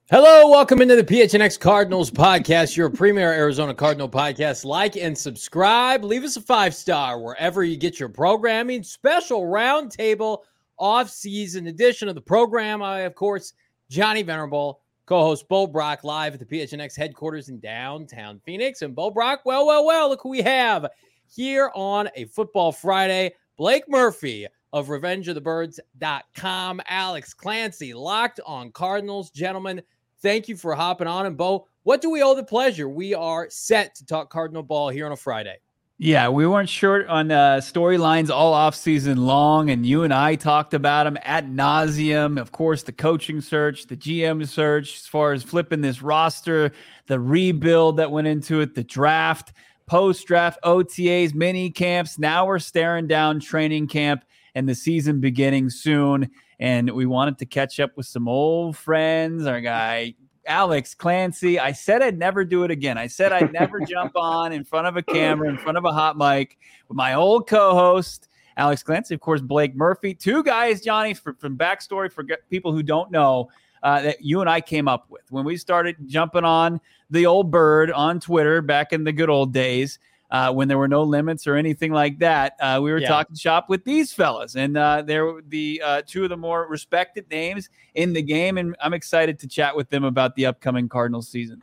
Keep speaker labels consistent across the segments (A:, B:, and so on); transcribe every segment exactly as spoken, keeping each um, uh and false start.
A: Hello, welcome into the P H N X Cardinals podcast, your premier Arizona Cardinal podcast. Like and subscribe. Leave us a five-star wherever you get your programming. Special roundtable off-season edition of the program. I, of course, Johnny Venerable, co-host Bo Brock, live at the P H N X headquarters in downtown Phoenix. And Bo Brock, well, well, well, look who we have here on a Football Friday. Blake Murphy of revenge of the birds dot com. Alex Clancy, Locked on Cardinals. Gentlemen, thank you for hopping on. And Bo, what do we owe the pleasure? We are set to talk Cardinal ball here on a Friday.
B: Yeah, we weren't short on uh, storylines all off season long, and you and I talked about them ad nauseum. Of course, the coaching search, the G M search, as far as flipping this roster, the rebuild that went into it, the draft, post-draft O T As, mini camps. Now we're staring down training camp and the season beginning soon. And we wanted to catch up with some old friends, our guy Alex Clancy. I said I'd never do it again. I said I'd never jump on in front of a camera, in front of a hot mic with my old co-host, Alex Clancy, of course, Blake Murphy. Two guys, Johnny, for, from backstory for people who don't know, uh, that you and I came up with when we started jumping on the old bird on Twitter back in the good old days. Uh, when there were no limits or anything like that, uh, we were yeah. talking shop with these fellas, and uh, they're the uh, two of the more respected names in the game, and I'm excited to chat with them about the upcoming Cardinals season.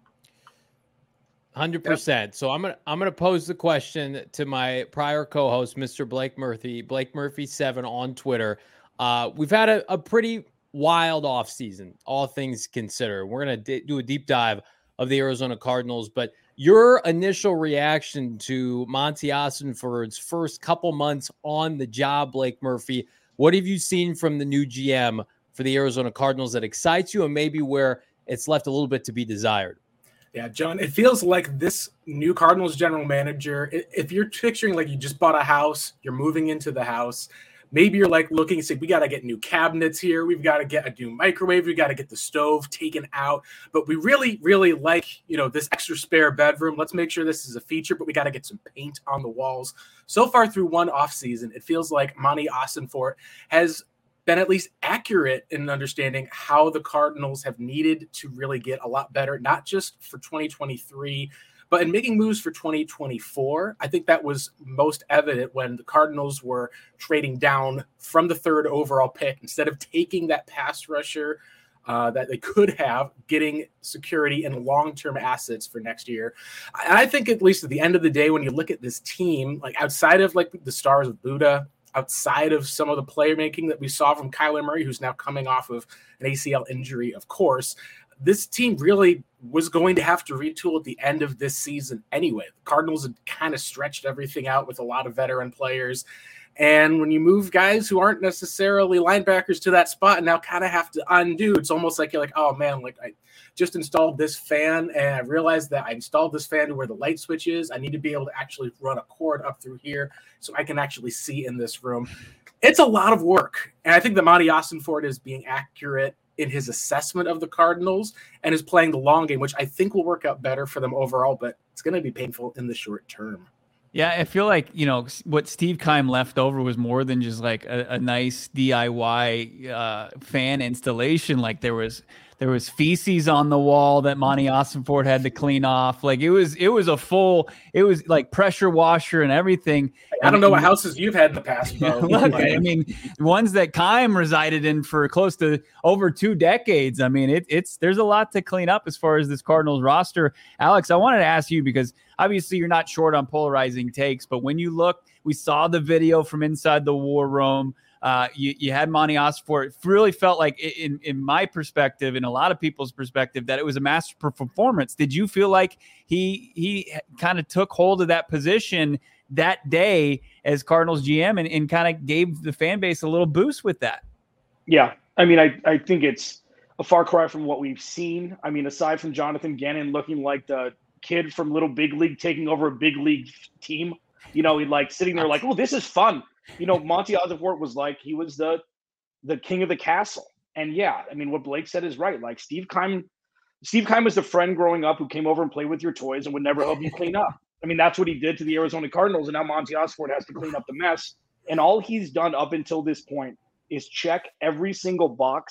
A: one hundred percent. So I'm gonna I'm gonna pose the question to my prior co-host, Mister Blake Murphy, Blake Murphy seven on Twitter. Uh, we've had a, a pretty wild off season, all things considered. We're gonna d- do a deep dive of the Arizona Cardinals, but your initial reaction to Monty Ossenford's first couple months on the job, Blake Murphy, what have you seen from the new G M for the Arizona Cardinals that excites you and maybe where it's left a little bit to be desired?
C: Yeah, John, it feels like this new Cardinals general manager, if you're picturing like you just bought a house, you're moving into the house, maybe you're like looking and say, we got to get new cabinets here. We've got to get a new microwave. We got to get the stove taken out. But we really, really like, you know, this extra spare bedroom. Let's make sure this is a feature, but we got to get some paint on the walls. So far through one offseason, it feels like Monty Ossenfort has been at least accurate in understanding how the Cardinals have needed to really get a lot better, not just for twenty twenty-three, but in making moves for twenty twenty-four. I think that was most evident when the Cardinals were trading down from the third overall pick. Instead of taking that pass rusher uh, that they could have, getting security and long-term assets for next year. I, I think at least at the end of the day, when you look at this team, like outside of like the stars of Buddha, outside of some of the playmaking that we saw from Kyler Murray, who's now coming off of an A C L injury, of course, this team really was going to have to retool at the end of this season anyway. The Cardinals had kind of stretched everything out with a lot of veteran players. And when you move guys who aren't necessarily linebackers to that spot and now kind of have to undo, it's almost like you're like, oh man, like I just installed this fan and I realized that I installed this fan to where the light switch is. I need to be able to actually run a cord up through here so I can actually see in this room. It's a lot of work. And I think that Monty Ossenfort is being accurate in his assessment of the Cardinals and is playing the long game, which I think will work out better for them overall, but it's going to be painful in the short term.
B: Yeah, I feel like, you know, what Steve Keim left over was more than just like a, a nice D I Y uh, fan installation. Like there was there was feces on the wall that Monty Ossenfort had to clean off. Like it was it was a full, it was like pressure washer and everything.
C: I don't know what houses you've had in the past, bro.
B: Look, I mean, ones that Keim resided in for close to over two decades. I mean, it, it's there's a lot to clean up as far as this Cardinals roster. Alex, I wanted to ask you because obviously you're not short on polarizing takes, but when you look, we saw the video from inside the war room. Uh, you, you had Monty Ossenfort. It really felt like, in, in my perspective, in a lot of people's perspective, that it was a master performance. Did you feel like he he kind of took hold of that position that day as Cardinals G M and, and kind of gave the fan base a little boost with that?
D: Yeah, I mean, I, I think it's a far cry from what we've seen. I mean, aside from Jonathan Gannon looking like the kid from Little Big League taking over a big league team, you know, he like sitting there like, oh, this is fun. You know, Monty Ossenfort was like, he was the the king of the castle. And yeah, I mean, what Blake said is right. Like Steve Keim, Steve Keim was the friend growing up who came over and played with your toys and would never help you clean up. I mean, that's what he did to the Arizona Cardinals. And now Monty Ossenfort has to clean up the mess. And all he's done up until this point is check every single box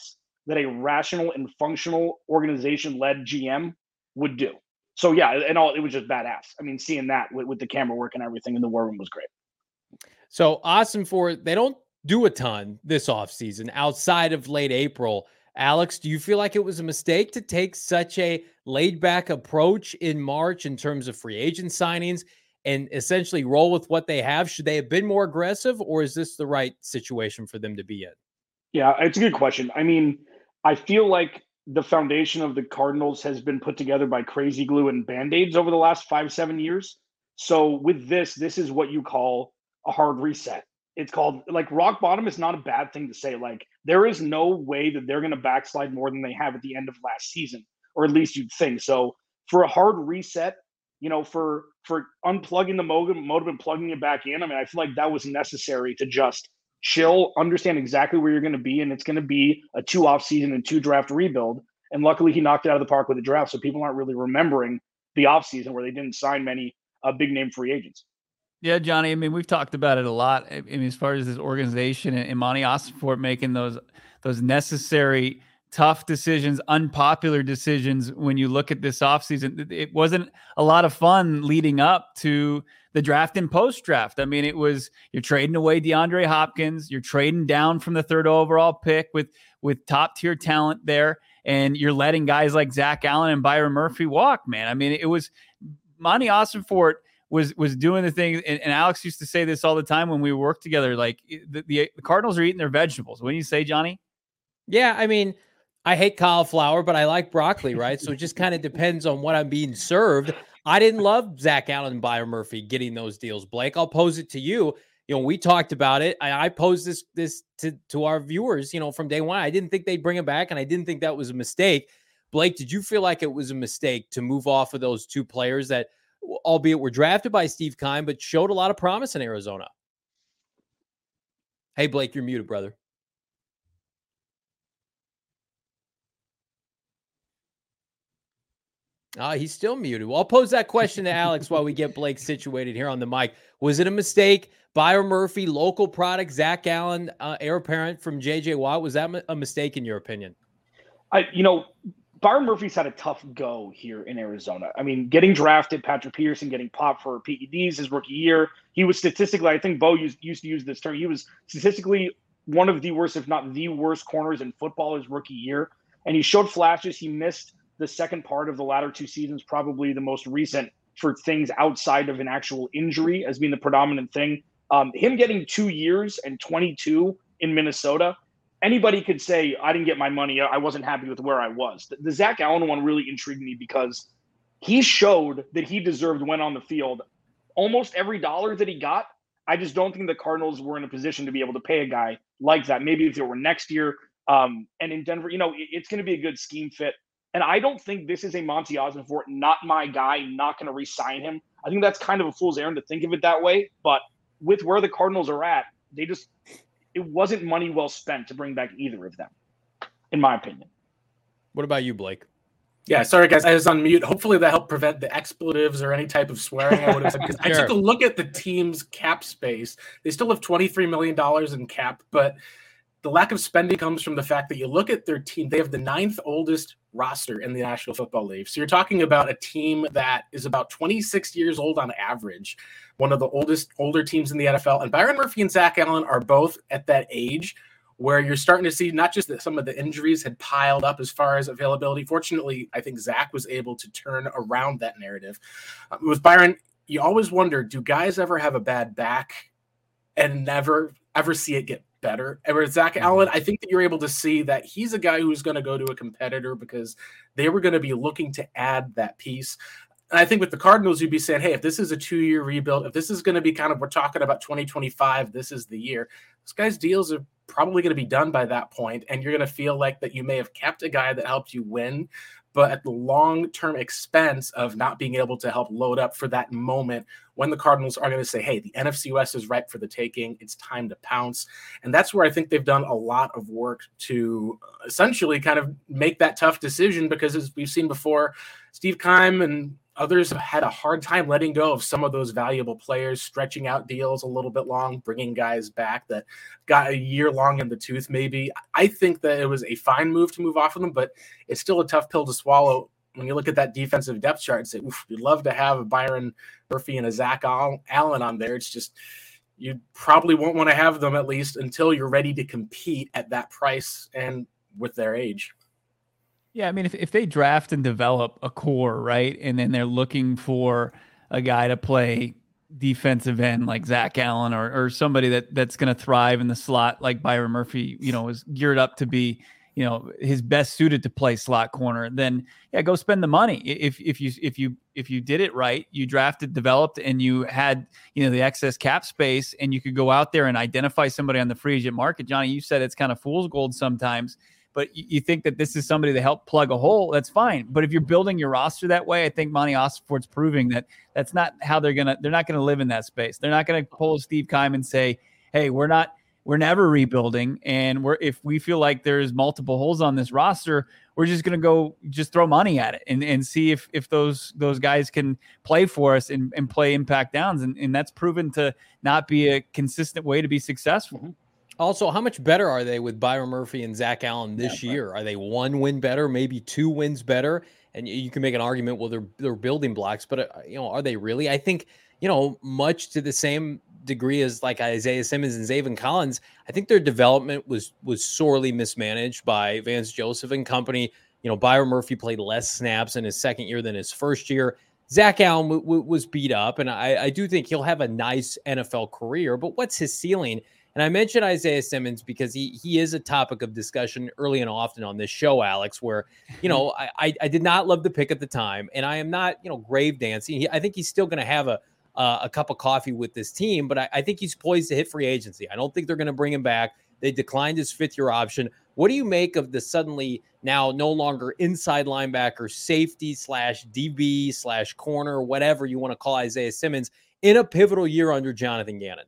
D: that a rational and functional organization-led G M would do. So yeah, and all it was just badass. I mean, seeing that with, with the camera work and everything in the war room was great.
A: So Ossenfort, they don't do a ton this offseason outside of late April. Alex, do you feel like it was a mistake to take such a laid-back approach in March in terms of free agent signings and essentially roll with what they have? Should they have been more aggressive, or is this the right situation for them to be in?
D: Yeah, it's a good question. I mean, I feel like the foundation of the Cardinals has been put together by crazy glue and Band-Aids over the last five, seven years. So with this, this is what you call a hard reset. It's called, like, rock bottom is not a bad thing to say. Like, there is no way that they're going to backslide more than they have at the end of last season, or at least you'd think. So for a hard reset, you know, for for unplugging the modem, modem and plugging it back in, I mean, I feel like that was necessary to just chill, understand exactly where you're going to be, and it's going to be a two off season and two draft rebuild. And luckily, he knocked it out of the park with the draft, so people aren't really remembering the off season where they didn't sign many uh, big name free agents.
B: Yeah, Johnny. I mean, we've talked about it a lot. I mean, as far as this organization and Imani Ossenfort making those those necessary, tough decisions, unpopular decisions. When you look at this offseason, it wasn't a lot of fun leading up to the draft and post draft. I mean, it was, you're trading away DeAndre Hopkins, you're trading down from the third overall pick with with top tier talent there, and you're letting guys like Zach Allen and Byron Murphy walk. Man, I mean, it was Imani Ossenfort was was doing the thing, and, and Alex used to say this all the time when we worked together. Like the, the, the Cardinals are eating their vegetables. What do you say, Johnny?
A: Yeah, I mean, I hate cauliflower, but I like broccoli, right? So it just kind of depends on what I'm being served. I didn't love Zach Allen and Byron Murphy getting those deals, Blake. I'll pose it to you. You know, we talked about it. I, I posed this this to, to our viewers, you know, from day one. I didn't think they'd bring him back, and I didn't think that was a mistake. Blake, did you feel like it was a mistake to move off of those two players that, albeit were drafted by Steve Keim, but showed a lot of promise in Arizona? Hey, Blake, you're muted, brother. Ah, uh, he's still muted. Well, I'll pose that question to Alex while we get Blake situated here on the mic. Was it a mistake? Byron Murphy, local product, Zach Allen, uh, heir apparent from J J Watt. Was that a mistake in your opinion?
D: I, you know, Byron Murphy's had a tough go here in Arizona. I mean, getting drafted, Patrick Peterson getting popped for P E Ds his rookie year. He was statistically, I think Bo used, used to use this term, he was statistically one of the worst, if not the worst corners in football his rookie year. And he showed flashes. He missed the second part of the latter two seasons, probably the most recent for things outside of an actual injury as being the predominant thing. Um, him getting two years and twenty-two in Minnesota, anybody could say, I didn't get my money. I wasn't happy with where I was. The, the Zach Allen one really intrigued me because he showed that he deserved when on the field. Almost every dollar that he got, I just don't think the Cardinals were in a position to be able to pay a guy like that. Maybe if it were next year. Um, and in Denver, you know, it, it's going to be a good scheme fit. And I don't think this is a Monty Ossenfort, not my guy, not going to re-sign him. I think that's kind of a fool's errand to think of it that way. But with where the Cardinals are at, they just – it wasn't money well spent to bring back either of them, in my opinion.
A: What about you, Blake?
C: Yeah, sorry, guys. I was on mute. Hopefully that helped prevent the expletives or any type of swearing I would have said. Because sure. I took a look at the team's cap space. They still have twenty-three million dollars in cap, but the lack of spending comes from the fact that you look at their team. They have the ninth oldest roster in the National Football League. So you're talking about a team that is about twenty-six years old on average, one of the oldest, older teams in the N F L. And Byron Murphy and Zach Allen are both at that age where you're starting to see not just that some of the injuries had piled up as far as availability. Fortunately, I think Zach was able to turn around that narrative. Uh, with Byron, you always wonder, do guys ever have a bad back and never ever see it get better? And with Zach Allen, I think that you're able to see that he's a guy who's going to go to a competitor because they were going to be looking to add that piece. And I think with the Cardinals, you'd be saying, hey, if this is a two-year rebuild, if this is going to be kind of, we're talking about twenty twenty-five, this is the year. This guy's deals are probably going to be done by that point, and you're going to feel like that you may have kept a guy that helped you win, but at the long-term expense of not being able to help load up for that moment when the Cardinals are going to say, hey, the N F C West is ripe for the taking. It's time to pounce. And that's where I think they've done a lot of work to essentially kind of make that tough decision because as we've seen before, Steve Keim and others have had a hard time letting go of some of those valuable players, stretching out deals a little bit long, bringing guys back that got a year long in the tooth maybe. I think that it was a fine move to move off of them, but it's still a tough pill to swallow. When you look at that defensive depth chart and say, oof, you'd love to have a Byron Murphy and a Zach Allen on there. It's just, you probably won't want to have them at least until you're ready to compete at that price and with their age.
B: Yeah, I mean, if, if they draft and develop a core, right, and then they're looking for a guy to play defensive end like Zach Allen or or somebody that that's going to thrive in the slot like Byron Murphy, you know, is geared up to be, you know, his best suited to play slot corner, then yeah, go spend the money. If if you if you if you did it right, you drafted, developed, and you had, you know, the excess cap space, and you could go out there and identify somebody on the free agent market. Johnny, you said it's kind of fool's gold sometimes, but you think that this is somebody to help plug a hole, that's fine. But if you're building your roster that way, I think Monty Ossenfort's proving that that's not how they're gonna. They're not gonna live in that space. They're not gonna pull a Steve Keim and say, "Hey, we're not." We're never rebuilding, and we're if we feel like there's multiple holes on this roster, we're just going to go just throw money at it and, and see if if those those guys can play for us and, and play impact downs, and, and that's proven to not be a consistent way to be successful.
A: Also, how much better are they with Byron Murphy and Zach Allen this
B: yeah,
A: year? Are they one win better, maybe two wins better? And you can make an argument, well, they're they're building blocks, but uh, you know, are they really? I think, you know, much to the same degree as like Isaiah Simmons and Zaven Collins, I think their development was was sorely mismanaged by Vance Joseph and company. You know, Byron Murphy played less snaps in his second year than his first year. Zach Allen w- w- was beat up, and I, I do think he'll have a nice N F L career, but what's his ceiling? And I mentioned Isaiah Simmons because he he is a topic of discussion early and often on this show, Alex, where, you know, I, I, I did not love the pick at the time, and I am not, you know, grave dancing. He, I think he's still going to have a Uh, a cup of coffee with this team, but I, I think he's poised to hit free agency. I don't think they're going to bring him back. They declined his fifth year option. What do you make of the suddenly now no longer inside linebacker, safety slash D B slash corner, whatever you want to call Isaiah Simmons in a pivotal year under Jonathan Gannon?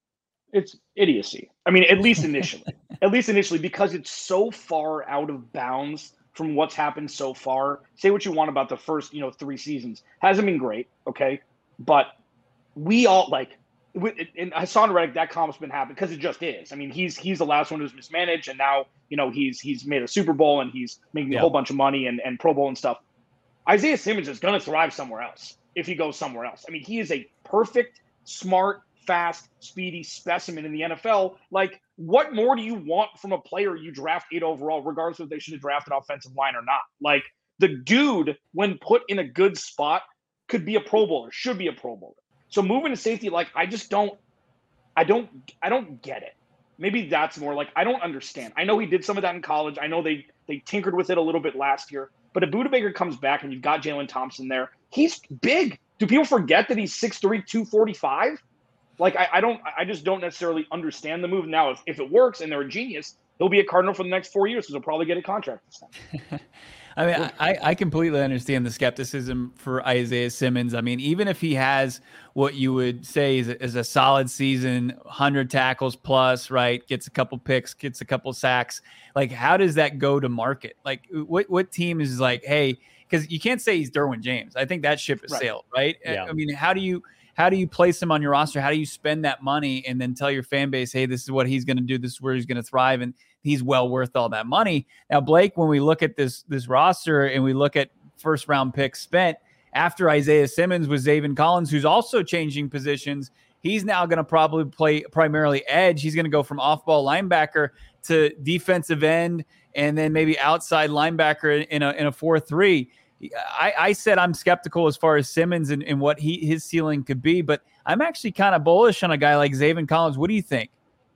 D: It's idiocy. I mean, at least initially, at least initially, because it's so far out of bounds from what's happened so far. Say what you want about the first, you know, three seasons. Hasn't been great. Okay. But we all like, and Hassan Reddick, that comment's been happening because it just is. I mean, he's he's the last one who's mismanaged, and now, you know, he's he's made a Super Bowl and he's making yeah. a whole bunch of money and, and Pro Bowl and stuff. Isaiah Simmons is going to thrive somewhere else if he goes somewhere else. I mean, he is a perfect, smart, fast, speedy specimen in the N F L. Like, what more do you want from a player you draft eight overall, regardless if they should have drafted offensive line or not? Like, the dude, when put in a good spot, could be a Pro Bowler, should be a Pro Bowler. So moving to safety, like, I just don't, I don't, I don't get it. Maybe that's more like, I don't understand. I know he did some of that in college. I know they they tinkered with it a little bit last year. But if Budda Baker comes back and you've got Jalen Thompson there, he's big. Do people forget that he's six three, two forty-five? Like, I, I don't, I just don't necessarily understand the move. Now, if, if it works and they're a genius, he'll be a Cardinal for the next four years because he'll probably get a contract this time.
B: I mean, I, I completely understand the skepticism for Isaiah Simmons. I mean, even if he has what you would say is a, is a solid season, one hundred tackles plus, right, gets a couple picks, gets a couple sacks, like, how does that go to market? Like, what what team is like, hey, because you can't say he's Derwin James. I think that ship has right. sailed, right? Yeah. I mean, how do you how do you place him on your roster? How do you spend that money and then tell your fan base, hey, this is what he's going to do, this is where he's going to thrive, and he's well worth all that money. Now, Blake, when we look at this this roster and we look at first round picks spent after Isaiah Simmons was Zaven Collins, who's also changing positions. He's now going to probably play primarily edge. He's going to go from off-ball linebacker to defensive end and then maybe outside linebacker in a in a four three. I, I said I'm skeptical as far as Simmons and, and what he his ceiling could be, but I'm actually kind of bullish on a guy like Zaven Collins. What do you think?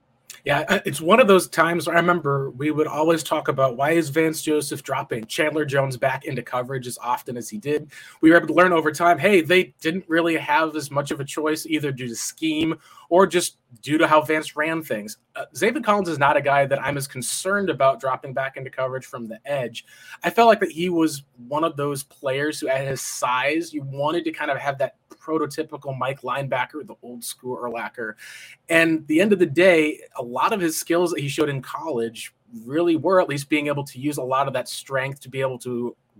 C: Yeah, it's one of those times where I remember we would always talk about why is Vance Joseph dropping Chandler Jones back into coverage as often as he did. We were able to learn over time, hey, they didn't really have as much of a choice either due to scheme or just due to how Vance ran things. Uh, Zaven Collins is not a guy that I'm as concerned about dropping back into coverage from the edge. I felt like that he was one of those players who, at his size, you wanted to kind of have that prototypical Mike linebacker, the old school Urlacher. And at the end of the day, a lot of his skills that he showed in college really were at least being able to use a lot of that strength to be able to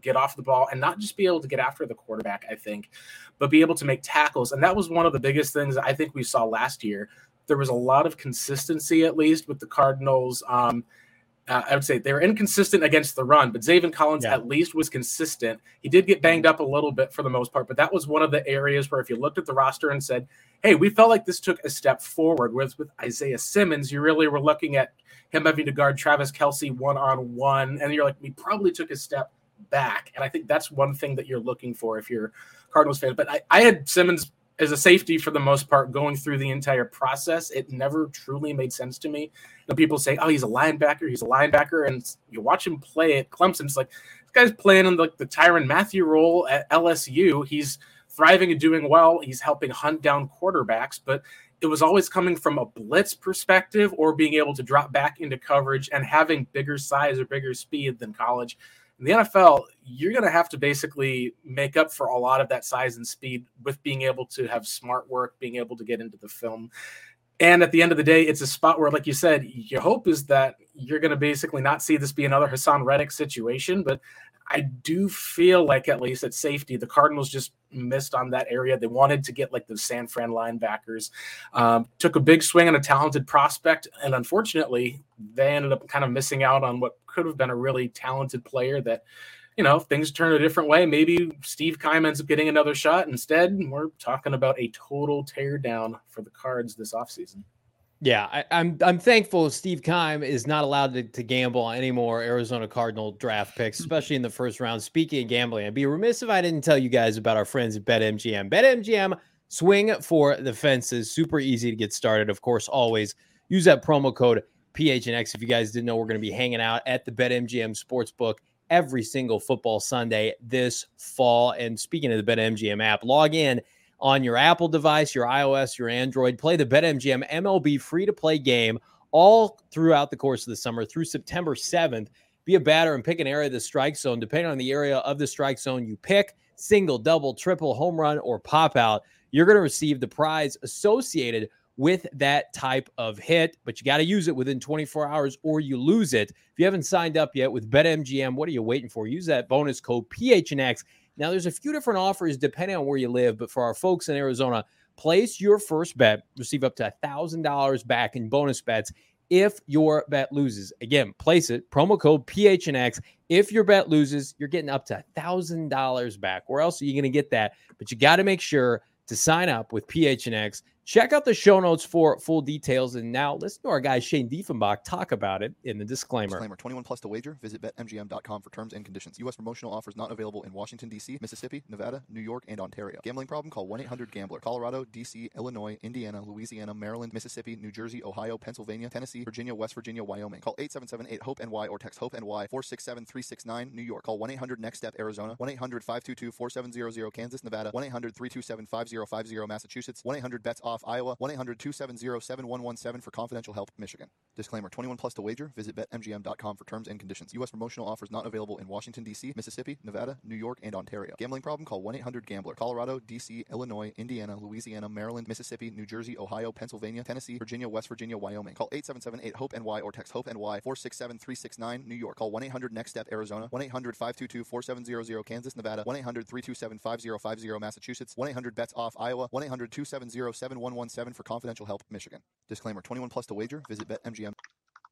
C: get off the ball and not just be able to get after the quarterback, I think, but be able to make tackles. And that was one of the biggest things I think we saw last year. There was a lot of consistency, at least with the Cardinals. Um, Uh, I would say they were inconsistent against the run, but Zaven Collins
A: Yeah.
C: at least was consistent. He did get banged up a little bit for the most part, but that was one of the areas where if you looked at the roster and said, hey, we felt like this took a step forward. Whereas with Isaiah Simmons, you really were looking at him having to guard Travis Kelce one-on-one, and you're like, we probably took a step back. And I think that's one thing that you're looking for if you're a Cardinals fan. But I, I had Simmons as a safety for the most part going through the entire process. It never truly made sense to me. And people say, oh, he's a linebacker, he's a linebacker. And you watch him play at Clemson, it's like, this guy's playing in like the Tyrann Mathieu role at L S U. He's thriving and doing well. He's helping hunt down quarterbacks, but it was always coming from a blitz perspective or being able to drop back into coverage and having bigger size or bigger speed than college. In the N F L, you're going to have to basically make up for a lot of that size and speed with being able to have smart work, being able to get into the film. And at the end of the day, it's a spot where, like you said, your hope is that you're going to basically not see this be another Hassan Reddick situation. But I do feel like, at least at safety, the Cardinals just missed on that area. They wanted to get like the San Fran linebackers, um, took a big swing on a talented prospect. And unfortunately, they ended up kind of missing out on what could have been a really talented player that, you know, if things turn a different way, maybe Steve Keim ends up getting another shot. Instead, we're talking about a total tear down for the Cards this offseason.
A: Yeah, I, I'm I'm thankful Steve Keim is not allowed to, to gamble on any more Arizona Cardinal draft picks, especially in the first round. Speaking of gambling, I'd be remiss if I didn't tell you guys about our friends at BetMGM. BetMGM, swing for the fences. Super easy to get started. Of course, always use that promo code P H N X. If you guys didn't know, we're going to be hanging out at the BetMGM Sportsbook every single football Sunday this fall. And speaking of the BetMGM app, log in on your Apple device, your iOS, your Android. Play the BetMGM M L B free-to-play game all throughout the course of the summer through September seventh. Be a batter and pick an area of the strike zone. Depending on the area of the strike zone you pick, single, double, triple, home run, or pop out, you're going to receive the prize associated with that type of hit. But you got to use it within twenty-four hours or you lose it. If you haven't signed up yet with BetMGM, what are you waiting for? Use that bonus code P H N X. Now, there's a few different offers depending on where you live, but for our folks in Arizona, place your first bet, receive up to one thousand dollars back in bonus bets if your bet loses. Again, place it, promo code P H N X. If your bet loses, you're getting up to one thousand dollars back. Where else are you going to get that? But you got to make sure to sign up with P H N X. Check out the show notes for full details. And now listen to our guy Shane Diefenbach talk about it in the disclaimer.
E: Disclaimer, twenty-one plus to wager. Visit bet M G M dot com for terms and conditions. U S promotional offers not available in Washington, D C, Mississippi, Nevada, New York, and Ontario. Gambling problem? Call one eight hundred gambler. Colorado, D C, Illinois, Indiana, Louisiana, Maryland, Mississippi, New Jersey, Ohio, Pennsylvania, Tennessee, Virginia, West Virginia, Wyoming. Call eight seven seven eight hope N Y or text HOPE-NY four six seven three six nine, New York. Call one eight hundred next step Arizona. one eight hundred five two two four seven zero zero, Kansas, Nevada. one eight hundred three two seven five zero five zero, Massachusetts. one eight hundred bets off Iowa. one eight hundred two seven zero seven one one seven for confidential help, Michigan. Disclaimer, twenty-one plus to wager. Visit bet M G M dot com for terms and conditions. U S promotional offers not available in Washington, D C, Mississippi, Nevada, New York, and Ontario. Gambling problem? Call one eight hundred gambler. Colorado, D C, Illinois, Indiana, Louisiana, Maryland, Mississippi, New Jersey, Ohio, Pennsylvania, Tennessee, Virginia, West Virginia, Wyoming. Call eight seven seven eight hope N Y or text HOPE-NY four six seven three six nine, New York. Call one eight hundred next step Arizona. one eight hundred five two two four seven zero zero, Kansas, Nevada. one eight hundred three two seven five zero five zero, Massachusetts. one eight hundred bets off Iowa. one eight hundred two seven zero seven one one seven for confidential help, Michigan. Disclaimer, twenty-one plus to wager. Visit bet M G M.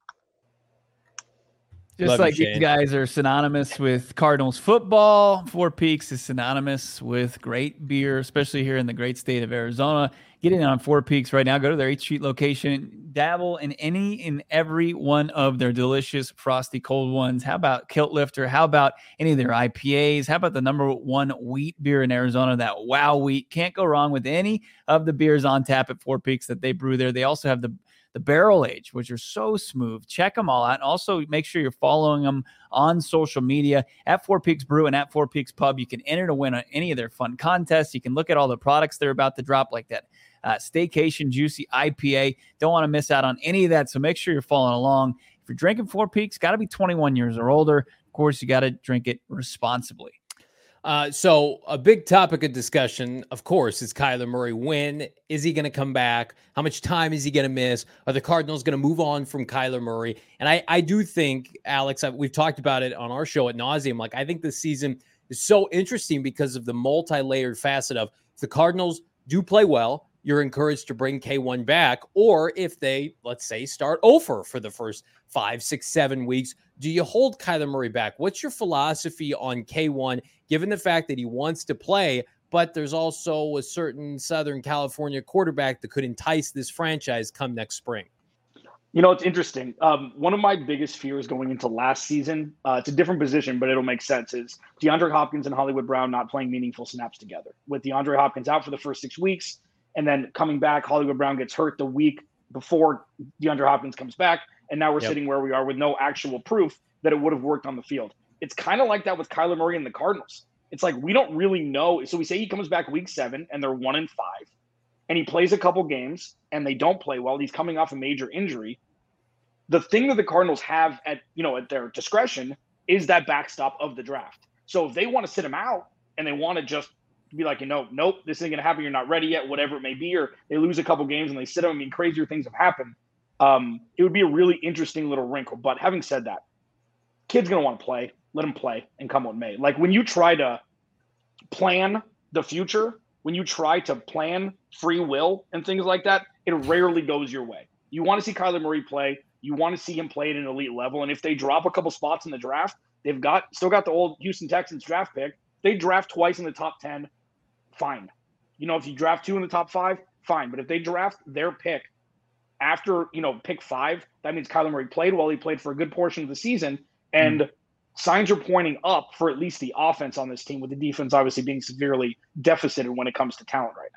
B: Just
A: Love
B: like
A: you,
B: these
A: Shane.
B: guys are synonymous with Cardinals football, Four Peaks is synonymous with great beer, especially here in the great state of Arizona. Get in on Four Peaks right now. Go to their eighth Street location. Dabble in any and every one of their delicious frosty cold ones. How about Kilt Lifter? How about any of their I P As? How about the number one wheat beer in Arizona, that Wow Wheat? Can't go wrong with any of the beers on tap at Four Peaks that they brew there. They also have the the barrel age, which are so smooth. Check them all out. And also make sure you're following them on social media at Four Peaks Brew and at Four Peaks Pub. You can enter to win on any of their fun contests. You can look at all the products they're about to drop, like that uh, Staycation Juicy I P A. Don't want to miss out on any of that. So make sure you're following along. If you're drinking Four Peaks, got to be twenty-one years or older. Of course, you got to drink it responsibly.
A: Uh, so a big topic of discussion, of course, is Kyler Murray. When is he going to come back? How much time is he going to miss? Are the Cardinals going to move on from Kyler Murray? And I, I do think, Alex, I, we've talked about it on our show at nauseum. Like, I think this season is so interesting because of the multi-layered facet of if the Cardinals do play well, you're encouraged to bring K one back. Or if they, let's say, start over for the first five, six, seven weeks, do you hold Kyler Murray back? What's your philosophy on K one, given the fact that he wants to play, but there's also a certain Southern California quarterback that could entice this franchise come next spring?
D: You know, it's interesting. Um, one of my biggest fears going into last season, uh, it's a different position, but it'll make sense, is DeAndre Hopkins and Hollywood Brown not playing meaningful snaps together. With DeAndre Hopkins out for the first six weeks and then coming back, Hollywood Brown gets hurt the week before DeAndre Hopkins comes back. And now we're yep. sitting where we are with no actual proof that it would have worked on the field. It's kind of like that with Kyler Murray and the Cardinals. It's like we don't really know. So we say he comes back week seven and they're one and five. And he plays a couple games and they don't play well. He's coming off a major injury. The thing that the Cardinals have at, you know, at their discretion is that backstop of the draft. So if they want to sit him out and they want to just be like, you know, nope, this isn't going to happen. You're not ready yet, whatever it may be, or they lose a couple games and they sit him. I mean, crazier things have happened. Um, it would be a really interesting little wrinkle. But having said that, kid's going to want to play. Let him play and come what may. Like when you try to plan the future, when you try to plan free will and things like that, it rarely goes your way. You want to see Kyler Murray play. You want to see him play at an elite level. And if they drop a couple spots in the draft, they've got still got the old Houston Texans draft pick. They draft twice in the top ten, fine. You know, if you draft two in the top five, fine. But if they draft their pick after, you know, pick five, that means Kyler Murray played well. He played for a good portion of the season. And mm. signs are pointing up for at least the offense on this team, with the defense obviously being severely deficited when it comes to talent right now.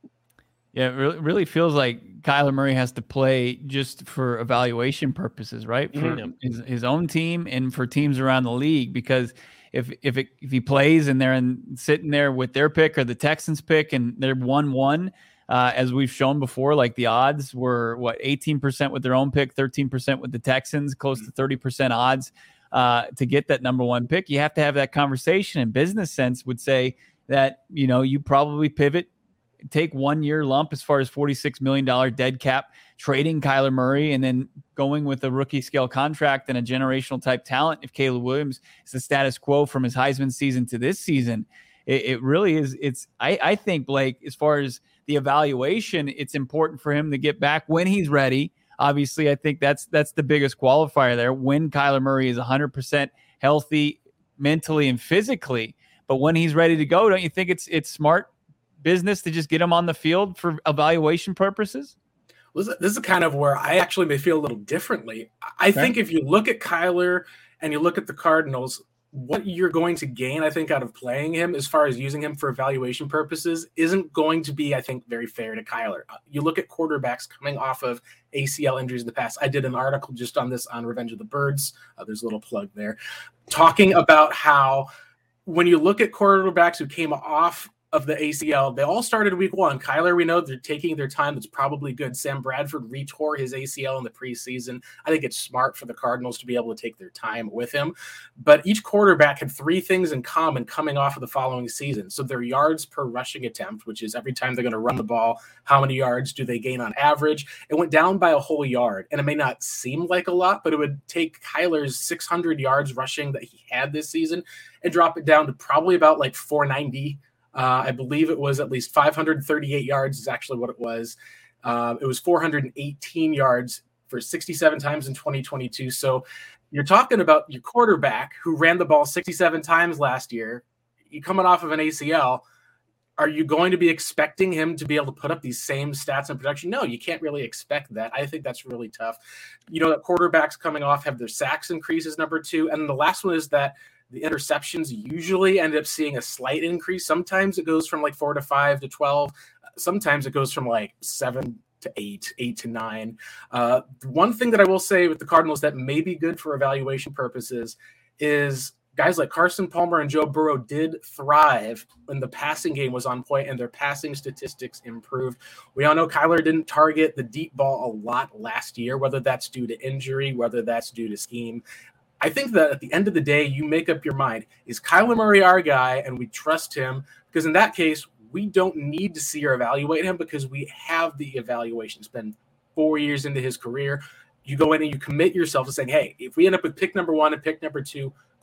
B: Yeah, it really, really feels like Kyler Murray has to play just for evaluation purposes, right? For mm-hmm. his, his own team and for teams around the league. Because if if it, if he plays and they're in, sitting there with their pick or the Texans pick and they're one one, uh, as we've shown before, like the odds were, what, eighteen percent with their own pick, thirteen percent with the Texans, close to thirty percent odds uh, to get that number one pick. You have to have that conversation. And business sense would say that, you know, you probably pivot, take one year lump as far as forty-six million dollars dead cap, trading Kyler Murray, and then going with a rookie scale contract and a generational type talent. If Caleb Williams is the status quo from his Heisman season to this season, it, it really is. It's, I, I think, Blake, as far as the evaluation, it's important for him to get back when he's ready. Obviously, I think that's, that's the biggest qualifier there, when Kyler Murray is one hundred percent healthy mentally and physically. But when he's ready to go, don't you think it's, it's smart business to just get him on the field for evaluation purposes?
C: Well, this is kind of where I actually may feel a little differently. I okay. think if you look at Kyler and you look at the Cardinals, what you're going to gain, I think, out of playing him as far as using him for evaluation purposes isn't going to be, I think, very fair to Kyler. You look at quarterbacks coming off of A C L injuries in the past. I did an article just on this on Revenge of the Birds. Uh, there's a little plug there, talking about how when you look at quarterbacks who came off of the A C L, they all started week one. Kyler, we know they're taking their time. That's probably good. Sam Bradford retore his A C L in the preseason. I think it's smart for the Cardinals to be able to take their time with him. But each quarterback had three things in common coming off of the following season. So their yards per rushing attempt, which is every time they're going to run the ball, how many yards do they gain on average? It went down by a whole yard. And it may not seem like a lot, but it would take Kyler's six hundred yards rushing that he had this season and drop it down to probably about like four ninety. Uh, I believe it was at least five hundred thirty-eight yards is actually what it was. Uh, it was four hundred eighteen yards for sixty-seven times in twenty twenty-two. So you're talking about your quarterback who ran the ball sixty-seven times last year. You coming off of an A C L. Are you going to be expecting him to be able to put up these same stats in production? No, you can't really expect that. I think that's really tough. You know, that quarterbacks coming off have their sacks increases, number two. And the last one is that the interceptions usually end up seeing a slight increase. Sometimes it goes from like four to five to twelve. Sometimes it goes from like seven to eight, eight to nine. Uh, one thing that I will say with the Cardinals that may be good for evaluation purposes is guys like Carson Palmer and Joe Burrow did thrive when the passing game was on point and their passing statistics improved. We all know Kyler didn't target the deep ball a lot last year, whether that's due to injury, whether that's due to scheme. I think that at the end of the day, you make up your mind. Is Kyler Murray our guy and we trust him? Because in that case, we don't need to see or evaluate him because we have the evaluation. It's been four years into his career. You go in and you commit yourself to saying, hey, if we end up with pick number one and pick number two, great.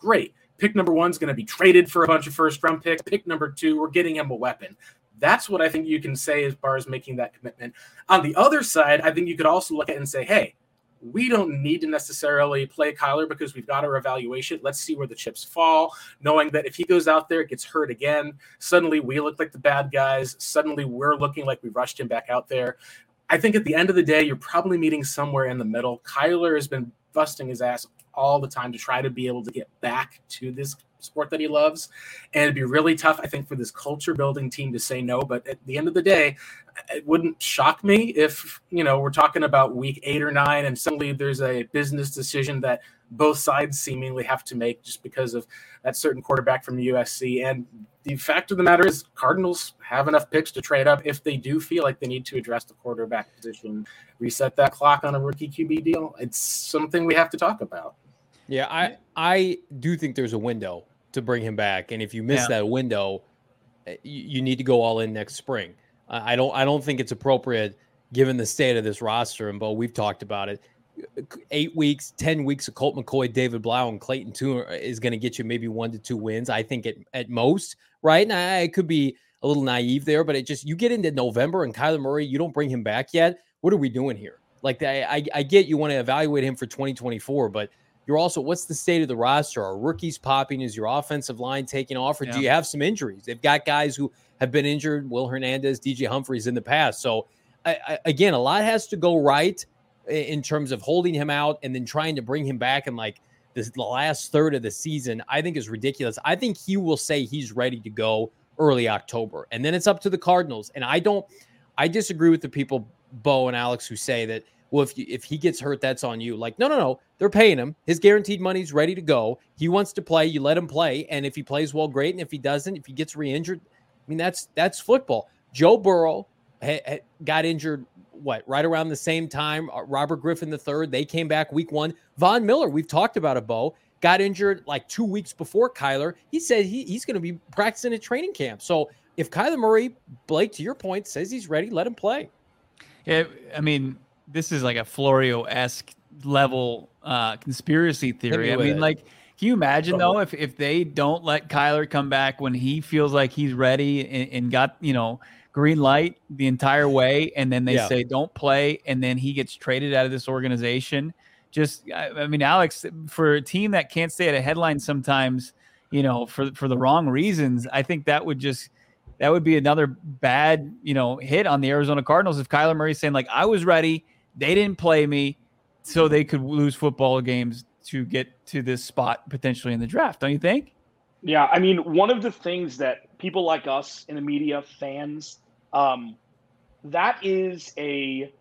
C: pick number one is going to be traded for a bunch of first round picks. Pick number two, we're getting him a weapon. That's what I think you can say as far as making that commitment. On the other side, I think you could also look at it and say, hey, we don't need to necessarily play Kyler because we've got our evaluation. Let's see where the chips fall, knowing that if he goes out there, gets hurt again, suddenly we look like the bad guys. Suddenly we're looking like we rushed him back out there. I think at the end of the day, you're probably meeting somewhere in the middle. Kyler has been busting his ass all the time to try to be able to get back to this sport that he loves. And it'd be really tough, I think, for this culture building team to say no. But at the end of the day, it wouldn't shock me if, you know, we're talking about week eight or nine and suddenly there's a business decision that both sides seemingly have to make just because of that certain quarterback from U S C. And the fact of the matter is Cardinals have enough picks to trade up if they do feel like they need to address the quarterback position, reset that clock on a rookie Q B deal. It's something we have to talk about.
A: Yeah, I I do think there's a window to bring him back, and if you miss yeah. that window, you, you need to go all in next spring. Uh, I don't I don't think it's appropriate given the state of this roster, and Bo, we've talked about it. Eight weeks, ten weeks of Colt McCoy, David Blau, and Clayton Tune is going to get you maybe one to two wins. I think at at most, right? And I, I could be a little naive there, but it just you get into November and Kyler Murray, you don't bring him back yet. What are we doing here? Like I I, I get you want to evaluate him for twenty twenty-four, but you're also, what's the state of the roster? Are rookies popping? Is your offensive line taking off? Or yeah. do you have some injuries? They've got guys who have been injured, Will Hernandez, D J Humphries in the past. So, I, I, again, a lot has to go right in terms of holding him out and then trying to bring him back in like this, the last third of the season, I think is ridiculous. I think he will say he's ready to go early October. And then it's up to the Cardinals. And I don't, I disagree with the people, Bo and Alex, who say that, well, if you, if he gets hurt, that's on you. Like, no, no, no. They're paying him. His guaranteed money's ready to go. He wants to play. You let him play. And if he plays well, great. And if he doesn't, if he gets re-injured, I mean, that's that's football. Joe Burrow ha, ha, got injured, what, right around the same time. Robert Griffin the third, they came back week one. Von Miller, we've talked about it, Bo, got injured like two weeks before Kyler. He said he, he's going to be practicing at training camp. So if Kyler Murray, Blake, to your point, says he's ready, let him play.
B: Yeah, I mean, this is like a Florio-esque level uh, conspiracy theory. I mean, it. like, can you imagine, though, if, if they don't let Kyler come back when he feels like he's ready and, and got, you know, green light the entire way, and then they yeah. say don't play, and then he gets traded out of this organization? Just, I, I mean, Alex, for a team that can't stay at a headline sometimes, you know, for for the wrong reasons, I think that would just – that would be another bad, you know, hit on the Arizona Cardinals if Kyler Murray's saying, like, I was ready, they didn't play me, so they could lose football games to get to this spot potentially in the draft. Don't you think?
D: Yeah, I mean, one of the things that people like us in the media, fans, um, that is a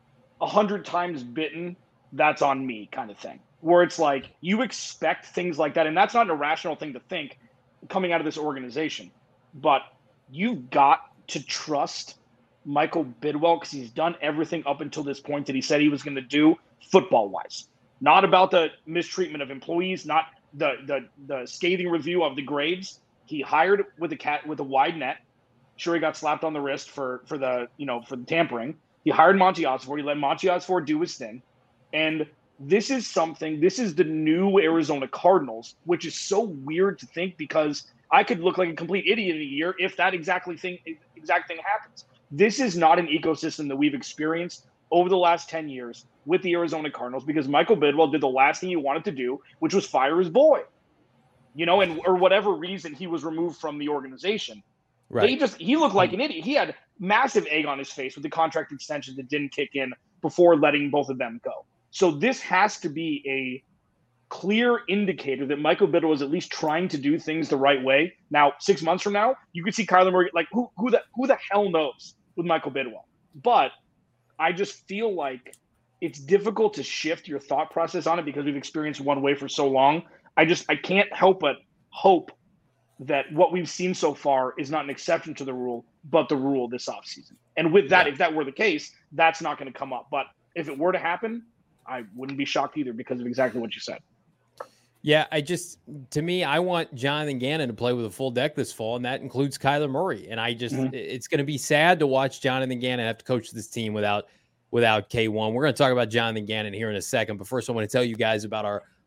D: a hundred times bitten, that's on me kind of thing, where it's like you expect things like that, and that's not an irrational thing to think coming out of this organization, but you've got to trust Michael Bidwell because he's done everything up until this point that he said he was going to do football-wise. Not about the mistreatment of employees, not the the the scathing review of the Graves. He hired with a cat with a wide net. Sure, he got slapped on the wrist for for the you know for the tampering. He hired Monty Osford. He let Monty Osford do his thing, and this is something. This is the new Arizona Cardinals, which is so weird to think because I could look like a complete idiot in a year if that exactly thing exact thing happens. This is not an ecosystem that we've experienced over the last ten years with the Arizona Cardinals because Michael Bidwell did the last thing he wanted to do, which was fire his boy, you know, and or whatever reason he was removed from the organization. Right. They just he looked like an idiot. He had massive egg on his face with the contract extension that didn't kick in before letting both of them go. So this has to be a clear indicator that Michael Bidwell is at least trying to do things the right way. Now, six months from now, you could see Kyler Murray, like who who the who the hell knows with Michael Bidwell. But I just feel like it's difficult to shift your thought process on it because we've experienced one way for so long. I just I can't help but hope that what we've seen so far is not an exception to the rule, but the rule this offseason. And with that, yeah. if that were the case, that's not going to come up. But if it were to happen, I wouldn't be shocked either because of exactly what you said.
A: Yeah, I just, to me, I want Jonathan Gannon to play with a full deck this fall, and that includes Kyler Murray. And I just, mm-hmm. it's going to be sad to watch Jonathan Gannon have to coach this team without without K one. We're going to talk about Jonathan Gannon here in a second, but first I want to tell you guys about our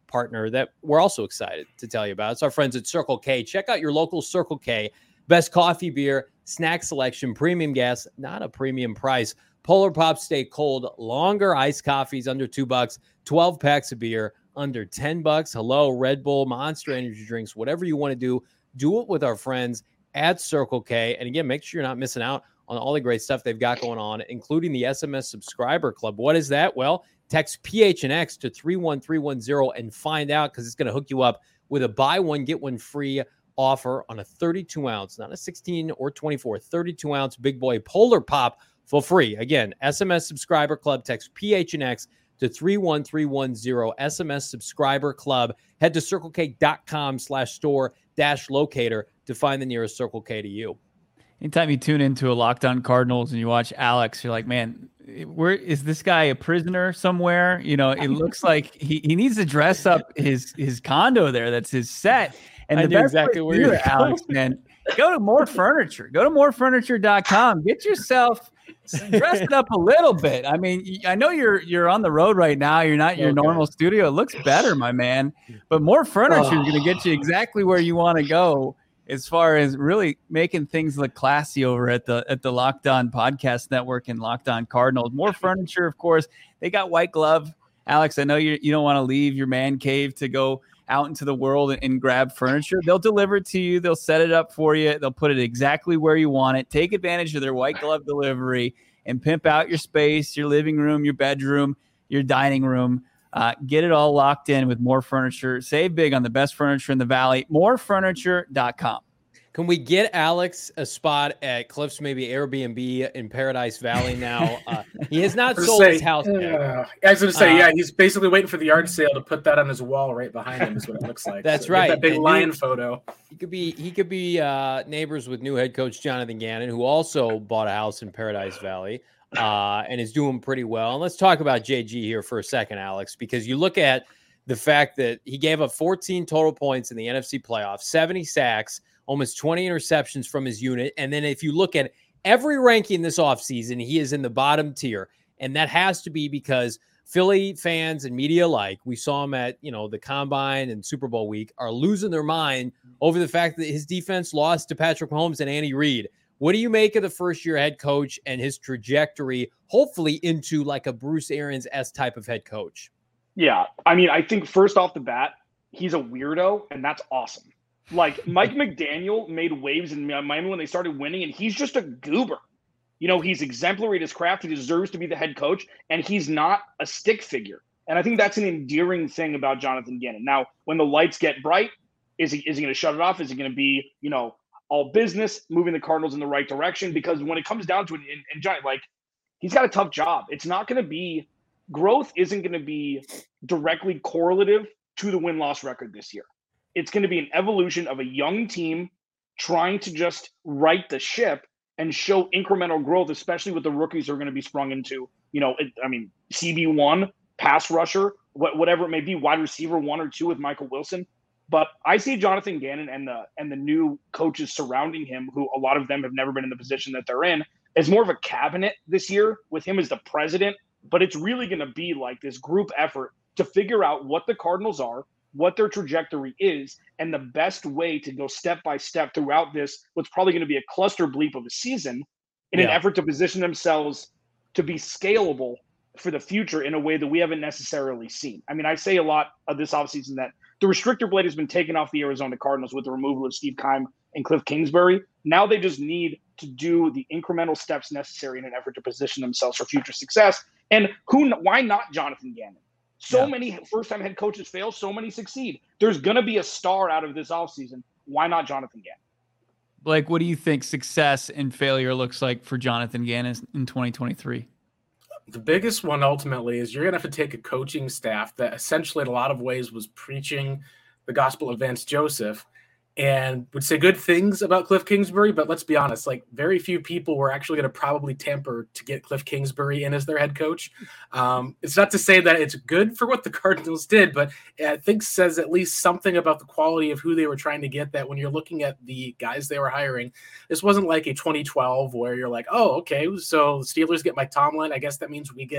A: partner that we're also excited to tell you about. It's our friends at Circle K. Check out your local Circle K. Best coffee, beer, snack selection, premium gas, not a premium price. Polar Pops stay cold, longer iced coffees under two bucks, twelve packs of beer under ten bucks. Hello, Red Bull, Monster Energy drinks, whatever you want to do, do it with our friends at Circle K. And again, make sure you're not missing out on all the great stuff they've got going on, including the S M S Subscriber Club. What is that? Well, text P H N X to three one three one zero and find out, because it's going to hook you up with a buy one, get one free offer on a thirty-two ounce, not a sixteen or twenty-four, thirty-two ounce big boy Polar Pop for free. Again, S M S Subscriber Club, text P H N X to three one three one zero, S M S Subscriber Club. Head to circlek.com slash store dash locator to find the nearest Circle K to you.
B: Anytime you tune into a Locked On Cardinals and you watch Alex, you're like, man, where is this guy a prisoner somewhere? You know, it looks like he, he needs to dress up his his condo there. That's his set. And
A: I
B: the
A: knew
B: best
A: exactly where you're
B: Alex, man, go to More Furniture. Go to more furniture dot com. Get yourself dress it up a little bit. I mean, I know you're you're on the road right now. You're not in your
A: Okay.
B: normal studio. It looks better, my man. But More Furniture is going to get you exactly where you want to go, as far as really making things look classy over at the at the Locked On Podcast Network and Locked On Cardinals. More Furniture, of course. They got White Glove. Alex, I know you you don't want to leave your man cave to go out into the world and, and grab furniture. They'll deliver it to you. They'll set it up for you. They'll put it exactly where you want it. Take advantage of their White Glove delivery and pimp out your space, your living room, your bedroom, your dining room. Uh, get it all locked in with More Furniture. Save big on the best furniture in the Valley. more furniture dot com.
A: Can we get Alex a spot at Cliff's, maybe Airbnb in Paradise Valley now? Uh, he has not
C: I was
A: sold
C: gonna
A: his
C: say,
A: house yet.
C: uh, I was going to say,
A: Uh,
C: yeah, he's basically waiting for the yard sale to put that on his wall right behind him. Is what it looks like.
A: That's
C: get
A: right.
C: That big
A: And
C: lion
A: you-
C: photo.
A: He could be he could be uh, neighbors with new head coach Jonathan Gannon, who also bought a house in Paradise Valley uh, and is doing pretty well. And let's talk about J G here for a second, Alex, because you look at the fact that he gave up fourteen total points in the N F C playoffs, seventy sacks, almost twenty interceptions from his unit. And then if you look at every ranking this offseason, he is in the bottom tier. And that has to be because Philly fans and media alike, we saw him at, you know, the Combine and Super Bowl week, are losing their mind over the fact that his defense lost to Patrick Mahomes and Andy Reid. What do you make of the first-year head coach and his trajectory, hopefully into like a Bruce Arians-esque type of head coach?
D: Yeah, I mean, I think first off the bat, he's a weirdo, and that's awesome. Like, Mike McDaniel made waves in Miami when they started winning, and he's just a goober. You know, he's exemplary at his craft. He deserves to be the head coach, and he's not a stick figure. And I think that's an endearing thing about Jonathan Gannon. Now, when the lights get bright, is he is he going to shut it off? Is he going to be, you know, all business, moving the Cardinals in the right direction? Because when it comes down to it, and, and Johnny, like, he's got a tough job. It's not going to be – growth isn't going to be directly correlative to the win-loss record this year. It's going to be an evolution of a young team trying to just right the ship and show incremental growth, especially with the rookies who are going to be sprung into, you know, it, I mean, C B one, pass rusher, wh- whatever it may be, wide receiver one or two with Michael Wilson. But I see Jonathan Gannon and the and the new coaches surrounding him, who a lot of them have never been in the position that they're in, as more of a cabinet this year with him as the president. But it's really going to be like this group effort to figure out what the Cardinals are, what their trajectory is, and the best way to go step by step throughout this, what's probably going to be a cluster bleep of a season, in
A: Yeah.
D: an effort to position themselves to be scalable for the future in a way that we haven't necessarily seen. I mean, I say a lot of this offseason that the restrictor blade has been taken off the Arizona Cardinals with the removal of Steve Keim and Cliff Kingsbury. Now they just need to do the incremental steps necessary in an effort to position themselves for future success. And who? Why not Jonathan Gannon? So
B: Yeah.
D: many first-time head coaches fail, so many succeed. There's going to be a star out of this offseason. Why not Jonathan Gannon?
B: Blake, what do you think success and failure looks like for Jonathan Gannon in twenty twenty-three?
C: The biggest one ultimately is you're going to have to take a coaching staff that essentially in a lot of ways was preaching the gospel of Vance Joseph and would say good things about Cliff Kingsbury, but let's be honest, like very few people were actually going to probably tamper to get Cliff Kingsbury in as their head coach. Um, it's not to say that it's good for what the Cardinals did, but I think says at least something about the quality of who they were trying to get, that when you're looking at the guys they were hiring, this wasn't like a twenty twelve where you're like, oh, okay, so the Steelers get Mike Tomlin. I guess that means we get,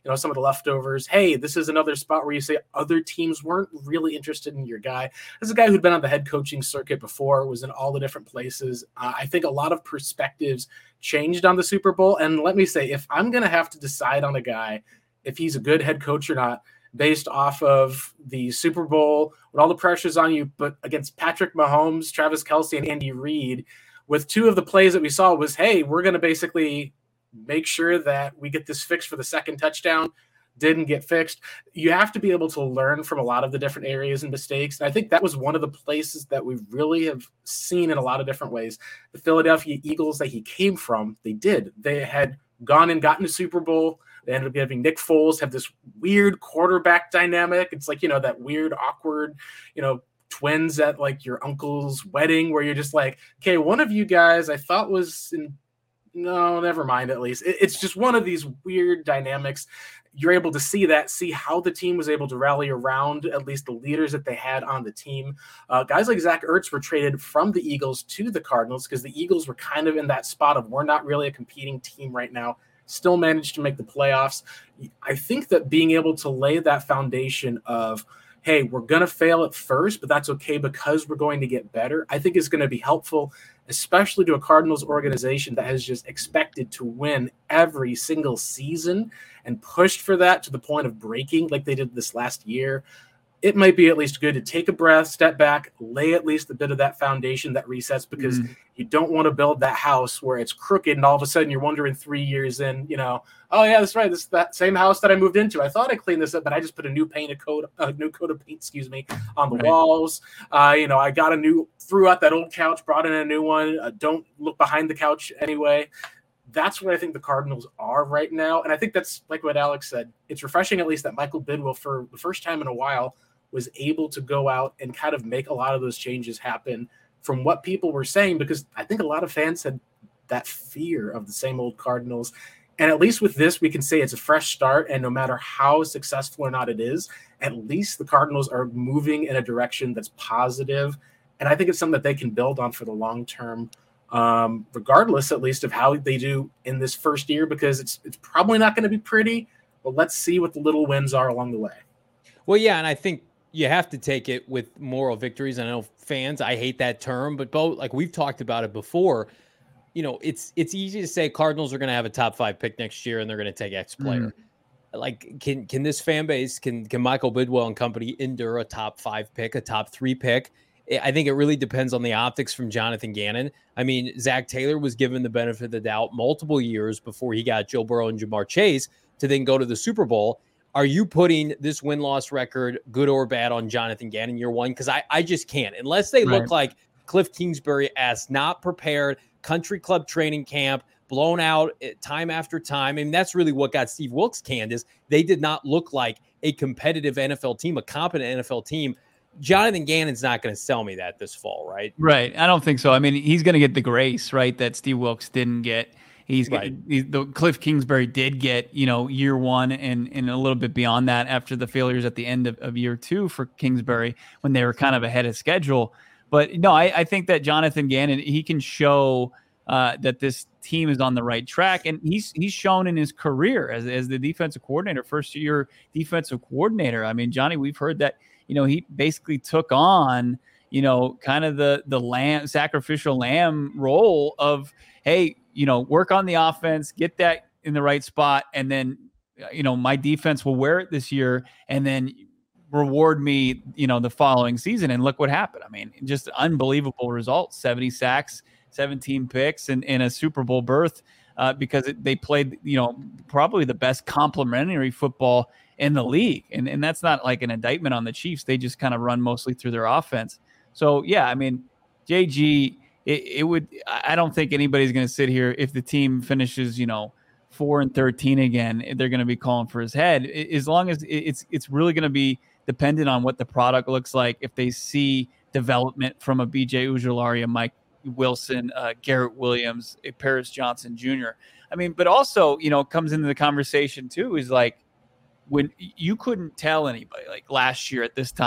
C: you know, some of the leftovers. Hey, this is another spot where you say other teams weren't really interested in your guy. This is a guy who'd been on the head coaching circuit before, was in all the different places. Uh, I think a lot of perspectives changed on the Super Bowl. And let me say, if I'm going to have to decide on a guy, if he's a good head coach or not, based off of the Super Bowl, with all the pressures on you, but against Patrick Mahomes, Travis Kelce, and Andy Reid, with two of the plays that we saw was, hey, we're going to basically make sure that we get this fixed for the second touchdown, didn't get fixed. You have to be able to learn from a lot of the different areas and mistakes. And I think that was one of the places that we really have seen in a lot of different ways. The Philadelphia Eagles that he came from, they did. They had gone and gotten a Super Bowl. They ended up having Nick Foles have this weird quarterback dynamic. It's like, you know, that weird, awkward, you know, twins at like your uncle's wedding where you're just like, okay, one of you guys I thought was in, no, never mind. At least it, it's just one of these weird dynamics. You're able to see that, see how the team was able to rally around at least the leaders that they had on the team. Uh, guys like Zach Ertz were traded from the Eagles to the Cardinals because the Eagles were kind of in that spot of we're not really a competing team right now. Still managed to make the playoffs. I think that being able to lay that foundation of, hey, we're going to fail at first, but that's okay because we're going to get better, I think is going to be helpful, especially to a Cardinals organization that has just expected to win every single season and pushed for that to the point of breaking like they did this last year. It might be at least good to take a breath, step back, lay at least a bit of that foundation that resets, because mm-hmm. you don't want to build that house where it's crooked and all of a sudden you're wondering three years in, you know, oh yeah, that's right, this is that same house that I moved into. I thought I cleaned this up, but I just put a new paint, a coat, a new coat of paint, excuse me, on the right. walls. Uh, you know, I got a new, threw out that old couch, brought in a new one. Uh, don't look behind the couch anyway. That's what I think the Cardinals are right now. And I think that's like what Alex said. It's refreshing at least that Michael Bidwill, for the first time in a while, was able to go out and kind of make a lot of those changes happen from what people were saying, because I think a lot of fans had that fear of the same old Cardinals. And at least with this, we can say it's a fresh start. And no matter how successful or not it is, at least the Cardinals are moving in a direction that's positive. And I think it's something that they can build on for the long term, um, regardless at least of how they do in this first year, because it's it's probably not going to be pretty, but let's see what the little wins are along the way.
A: Well, yeah, and I think you have to take it with moral victories. I know fans, I hate that term, but both, like we've talked about it before, you know, it's it's easy to say Cardinals are going to have a top five pick next year and they're going to take X player. Mm-hmm. Like, can can this fan base, can can Michael Bidwill and company endure a top five pick, a top three pick? I think it really depends on the optics from Jonathan Gannon. I mean, Zach Taylor was given the benefit of the doubt multiple years before he got Joe Burrow and Jamar Chase to then go to the Super Bowl. Are you putting this win-loss record, good or bad, on Jonathan Gannon year one? Because I, I just can't. Unless they right. look like Cliff Kingsbury-esque, not prepared, country club training camp, blown out time after time. I mean, that's really what got Steve Wilks canned, is they did not look like a competitive N F L team, a competent N F L team. Jonathan Gannon's not going to sell me that this fall, right?
B: Right. I don't think so. I mean, he's going to get the grace, right, that Steve Wilks didn't get. He's, right. he's the Cliff Kingsbury did get, you know, year one and, and a little bit beyond that after the failures at the end of, of year two for Kingsbury when they were kind of ahead of schedule. But no, I, I think that Jonathan Gannon, he can show uh, that this team is on the right track. And he's he's shown in his career as, as the defensive coordinator, first year defensive coordinator. I mean, Johnny, we've heard that, you know, he basically took on, you know, kind of the, the lamb, sacrificial lamb role of, hey, you know, work on the offense, get that in the right spot. And then, you know, my defense will wear it this year and then reward me, you know, the following season. And look what happened. I mean, just unbelievable results, seventy sacks, seventeen picks, and, and a Super Bowl berth uh, because it, they played, you know, probably the best complementary football in the league. And, and that's not like an indictment on the Chiefs. They just kind of run mostly through their offense. So, yeah, I mean, J G, It, it would. I don't think anybody's going to sit here if the team finishes, you know, four and thirteen again. They're going to be calling for his head. As long as it's, it's really going to be dependent on what the product looks like. If they see development from a B J Ojulari, a Mike Wilson, uh, Garrett Williams, a Paris Johnson Junior I mean, but also, you know, comes into the conversation too. Is like when you couldn't tell anybody, like last year at this time,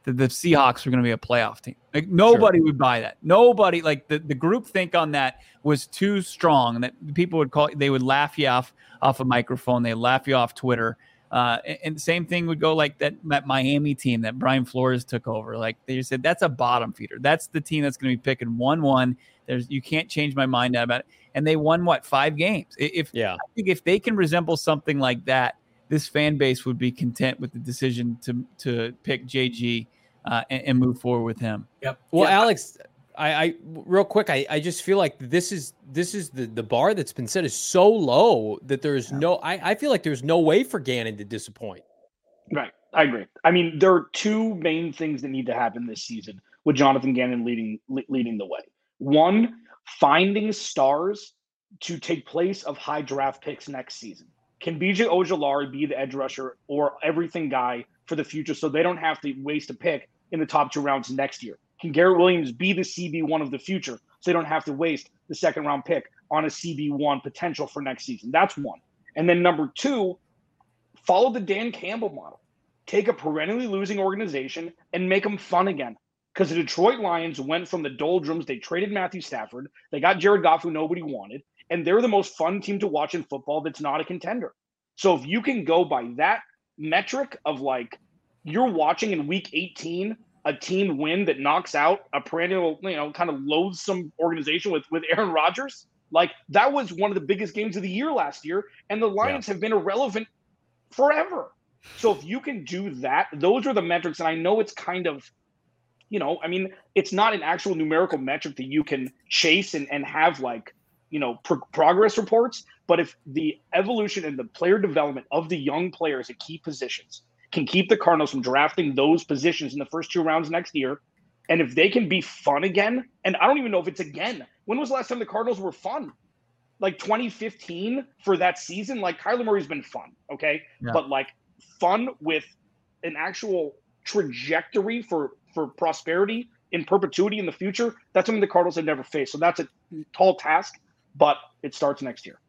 B: that the Seahawks were going to be a playoff team. Like nobody sure. would buy that. Nobody like the, the group think on that was too strong that people would call, they would laugh you off, off a microphone. They laugh you off Twitter. Uh, and, and the same thing would go like that, that Miami team that Brian Flores took over. Like they just said, that's a bottom feeder. That's the team that's going to be picking one, one. There's, you can't change my mind about it. And they won what, five games. If yeah. I think if they can resemble something like that, this fan base would be content with the decision to to pick J G uh, and, and move forward with him.
C: Yep.
A: Well,
C: yep.
A: Alex, I, I real quick, I, I just feel like this is this is the, the bar that's been set is so low that there's yeah. no. I, I feel like there's no way for Gannon to disappoint.
D: Right, I agree. I mean, there are two main things that need to happen this season with Jonathan Gannon leading leading the way. One, finding stars to take place of high draft picks next season. Can B J Ojulari be the edge rusher or everything guy for the future so they don't have to waste a pick in the top two rounds next year? Can Garrett Williams be the C B one of the future so they don't have to waste the second round pick on a C B one potential for next season? That's one. And then number two, follow the Dan Campbell model. Take a perennially losing organization and make them fun again. Because the Detroit Lions went from the doldrums. They traded Matthew Stafford. They got Jared Goff, who nobody wanted. And they're the most fun team to watch in football that's not a contender. So if you can go by that metric of like you're watching in week eighteen a team win that knocks out a perennial, you know, kind of loathsome organization with, with Aaron Rodgers, like that was one of the biggest games of the year last year. And the Lions yeah. have been irrelevant forever. So if you can do that, those are the metrics. And I know it's kind of, you know, I mean, it's not an actual numerical metric that you can chase and, and have like, you know, pro- progress reports. But if the evolution and the player development of the young players at key positions can keep the Cardinals from drafting those positions in the first two rounds next year, and if they can be fun again, and I don't even know if it's again. When was the last time the Cardinals were fun? Like twenty fifteen for that season? Like Kyler Murray's been fun, okay? Yeah. But like fun with an actual trajectory for, for prosperity in perpetuity in the future, that's something the Cardinals have never faced. So that's a tall task, but it starts next year.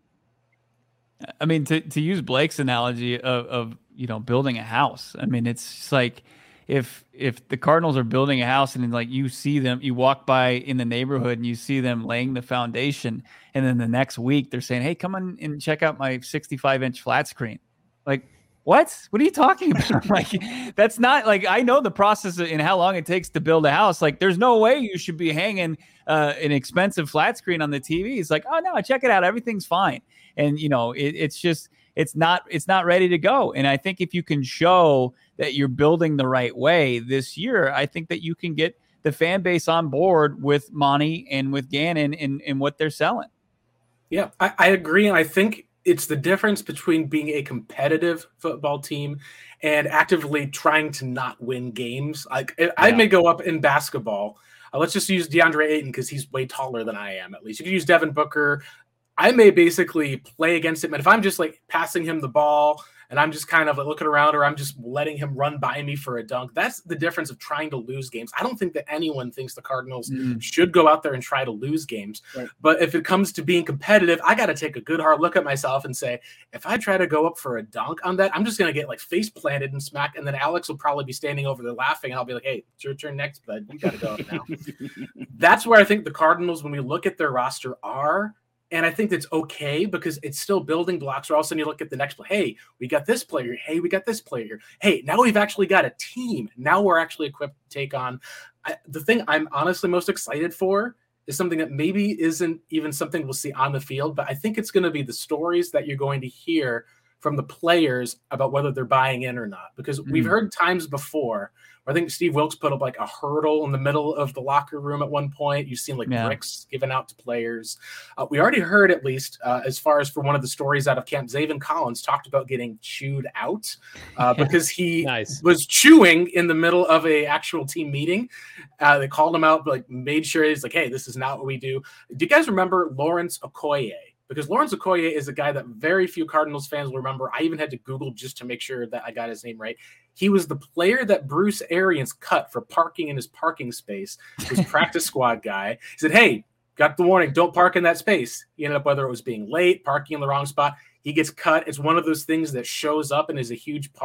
B: I mean, to, to use Blake's analogy of, of, you know, building a house. I mean, it's just like if if the Cardinals are building a house and like you see them, you walk by in the neighborhood and you see them laying the foundation, and then the next week they're saying, "Hey, come on and check out my sixty-five inch flat screen." Like, what? What are you talking about? Like, that's not like I know the process and how long it takes to build a house. Like, there's no way you should be hanging uh, an expensive flat screen on the T V. It's like, oh no, check it out, everything's fine. And you know, it, it's just. It's not it's not ready to go. And I think if you can show that you're building the right way this year, I think that you can get the fan base on board with Monty and with Gannon and, and what they're selling.
C: Yeah, I, I agree. And I think it's the difference between being a competitive football team and actively trying to not win games. Like yeah. I may go up in basketball. Uh, let's just use DeAndre Ayton because he's way taller than I am, at least. You could use Devin Booker. I may basically play against him. And if I'm just like passing him the ball and I'm just kind of like looking around or I'm just letting him run by me for a dunk, that's the difference of trying to lose games. I don't think that anyone thinks the Cardinals mm. should go out there and try to lose games. Right. But if it comes to being competitive, I got to take a good hard look at myself and say, if I try to go up for a dunk on that, I'm just going to get like face planted and smack. And then Alex will probably be standing over there laughing. And I'll be like, hey, it's your turn next, bud. You got to go up now. That's where I think the Cardinals, when we look at their roster, are. And I think that's okay because it's still building blocks. Or all of a sudden you look at the next play. Hey, we got this player. Hey, we got this player. Hey, now we've actually got a team. Now we're actually equipped to take on. I, the thing I'm honestly most excited for is something that maybe isn't even something we'll see on the field, but I think it's going to be the stories that you're going to hear from the players about whether they're buying in or not. Because mm. we've heard times before where I think Steve Wilkes put up like a hurdle in the middle of the locker room at one point. You've seen like yeah. bricks given out to players. Uh, we already heard, at least uh, as far as for one of the stories out of camp, Zaven Collins talked about getting chewed out uh, because he
A: nice.
C: was chewing in the middle of a actual team meeting. Uh, they called him out, but like made sure he's like, hey, this is not what we do. Do you guys remember Lawrence Okoye? Because Lawrence Okoye is a guy that very few Cardinals fans will remember. I even had to Google just to make sure that I got his name right. He was the player that Bruce Arians cut for parking in his parking space. His practice squad guy. He said, hey, got the warning, don't park in that space. He ended up, whether it was being late, parking in the wrong spot, he gets cut. It's one of those things that shows up and is a huge part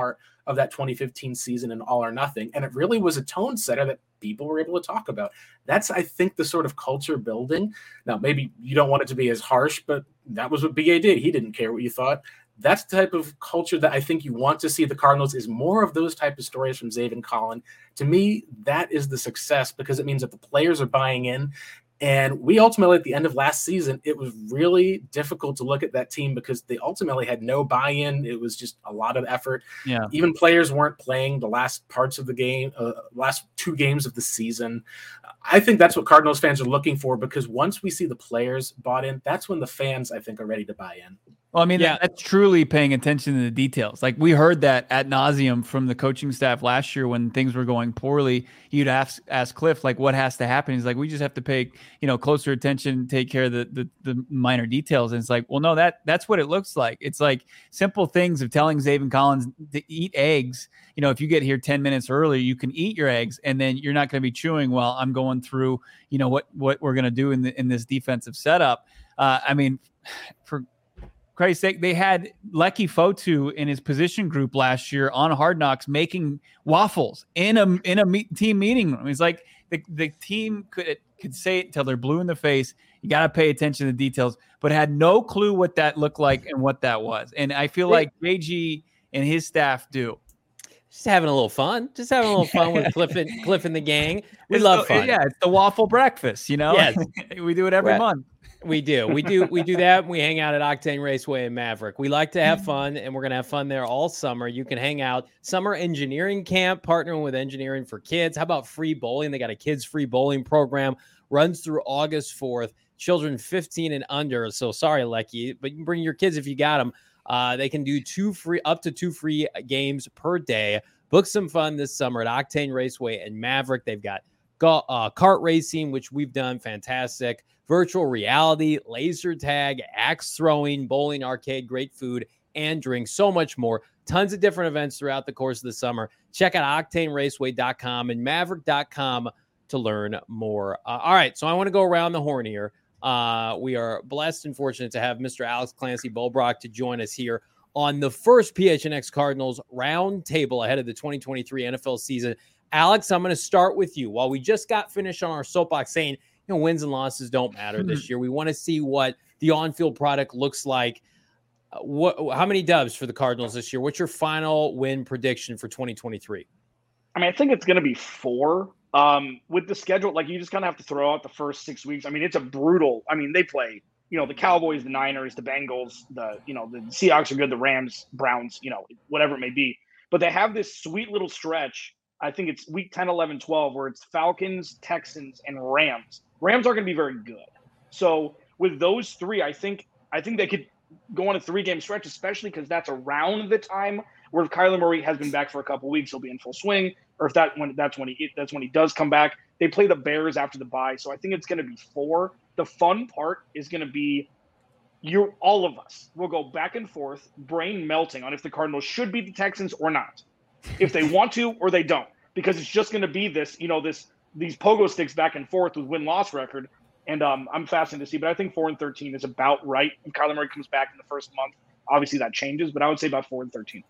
C: of that twenty fifteen season in All or Nothing. And it really was a tone setter that people were able to talk about. That's, I think, the sort of culture building. Now, maybe you don't want it to be as harsh, but that was what B A did. He didn't care what you thought. That's the type of culture that I think you want to see the Cardinals, is more of those type of stories from Zaven Collin. To me, that is the success, because it means that the players are buying in. And we ultimately, at the end of last season, it was really difficult to look at that team because they ultimately had no buy-in. It was just a lot of effort.
B: Yeah.
C: Even players weren't playing the last parts of the game, uh, last two games of the season. I think that's what Cardinals fans are looking for, because once we see the players bought in, that's when the fans, I think, are ready to buy in.
B: Well, I mean,
A: Yeah.
B: that, that's truly paying attention to the details. Like, we heard that ad nauseum from the coaching staff last year when things were going poorly. You'd ask ask Cliff, like, what has to happen? He's like, we just have to pay, you know, closer attention, take care of the, the the minor details. And it's like, well, no, that that's what it looks like. It's like simple things of telling Zaven Collins to eat eggs. You know, if you get here ten minutes early, you can eat your eggs, and then you're not going to be chewing while I'm going through, you know, what what we're going to do in the, in this defensive setup. Uh, I mean, for Christ's sake, they had Lecky Fotu in his position group last year on Hard Knocks making waffles in a in a meet, team meeting room. It's like the, the team could could say it until they're blue in the face. You got to pay attention to the details, but had no clue what that looked like and what that was. And I feel like J G and his staff do.
A: Just having a little fun. Just having a little fun with Cliff and Cliff and the gang. We
B: It's
A: love
B: the,
A: fun.
B: Yeah, it's the waffle breakfast, you know?
A: Yes.
B: We do it every
A: Right.
B: month.
A: We do. We do. We do that. We hang out at Octane Raceway in Maverick. We like to have fun, and we're going to have fun there all summer. You can hang out. Summer engineering camp, partnering with Engineering for Kids. How about free bowling? They got a kids free bowling program. Runs through August fourth. Children fifteen and under. So sorry, Lecky, but you can bring your kids if you got them. Uh, they can do two free, up to two free games per day. Book some fun this summer at Octane Raceway and Maverick. They've got go, uh, kart racing, which we've done fantastic. Virtual reality, laser tag, axe throwing, bowling, arcade, great food, and drinks, so much more. Tons of different events throughout the course of the summer. Check out octane raceway dot com and maverick dot com to learn more. Uh, all right, so I want to go around the horn here. Uh, we are blessed and fortunate to have Mister Alex Clancy Bulbrock to join us here on the first P H N X Cardinals roundtable ahead of the twenty twenty-three N F L season. Alex, I'm going to start with you. While we just got finished on our soapbox saying, you know, wins and losses don't matter this year. We want to see what the on-field product looks like. Uh, what? How many dubs for the Cardinals this year? What's your final win prediction for twenty twenty-three?
D: I mean, I think it's going to be four. Um, with the schedule, like, you just kind of have to throw out the first six weeks. I mean, it's a brutal. I mean, they play, you know, the Cowboys, the Niners, the Bengals, the, you know, the Seahawks are good, the Rams, Browns, you know, whatever it may be. But they have this sweet little stretch. I think it's week ten, eleven, twelve, where it's Falcons, Texans, and Rams. Rams are going to be very good. So with those three, I think I think they could go on a three-game stretch, especially because that's around the time where if Kyler Murray has been back for a couple weeks, he'll be in full swing. Or if that when that's when he that's when he does come back. They play the Bears after the bye, so I think it's going to be four. The fun part is going to be you all of us will go back and forth, brain melting on if the Cardinals should beat the Texans or not, if they want to or they don't, because it's just going to be this, you know, this these pogo sticks back and forth with win-loss record. And um, I'm fascinated to see, but I think four and thirteen is about right. If Kyler Murray comes back in the first month, obviously that changes, but I would say about four and thirteen.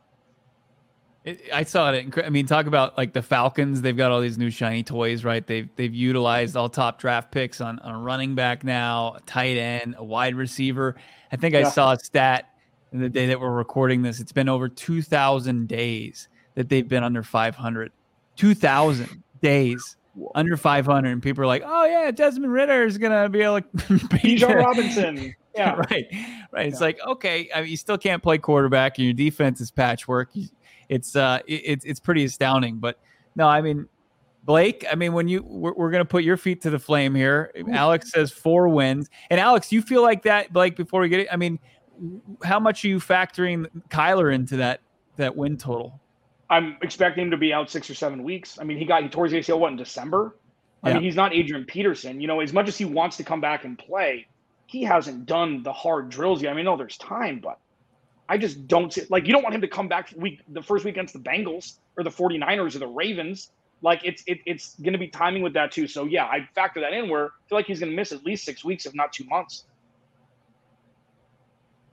B: It, I saw it. I mean, talk about like the Falcons. They've got all these new shiny toys, right? They've they've utilized all top draft picks on, on a running back now, a tight end, a wide receiver. I think I
D: Yeah.
B: saw a stat in the day that we're recording this. It's been over two thousand days that they've been under five hundred. two thousand days under five hundred. And people are like, oh, yeah, Desmond Ritter is going to be able to beat
D: Bijan
B: them.
D: Robinson. Yeah.
B: right. Right. It's
D: Yeah.
B: like, okay, I mean, you still can't play quarterback and your defense is patchwork. You, It's uh, it, it's it's pretty astounding. But no, I mean, Blake. I mean, when you we're, we're gonna put your feet to the flame here. Alex says four wins, and Alex, you feel like that, Blake? Before we get it, I mean, how much are you factoring Kyler into that that win total?
D: I'm expecting him to be out six or seven weeks. I mean, he got he tore his A C L what in December. I
B: Yeah.
D: mean, he's not Adrian Peterson. You know, as much as he wants to come back and play, he hasn't done the hard drills yet. I mean, no, there's time, but I just don't see like you don't want him to come back week the first week against the Bengals or the 49ers or the Ravens. Like it's it, it's going to be timing with that too. So yeah, I factor that in where I feel like he's going to miss at least six weeks, if not two months.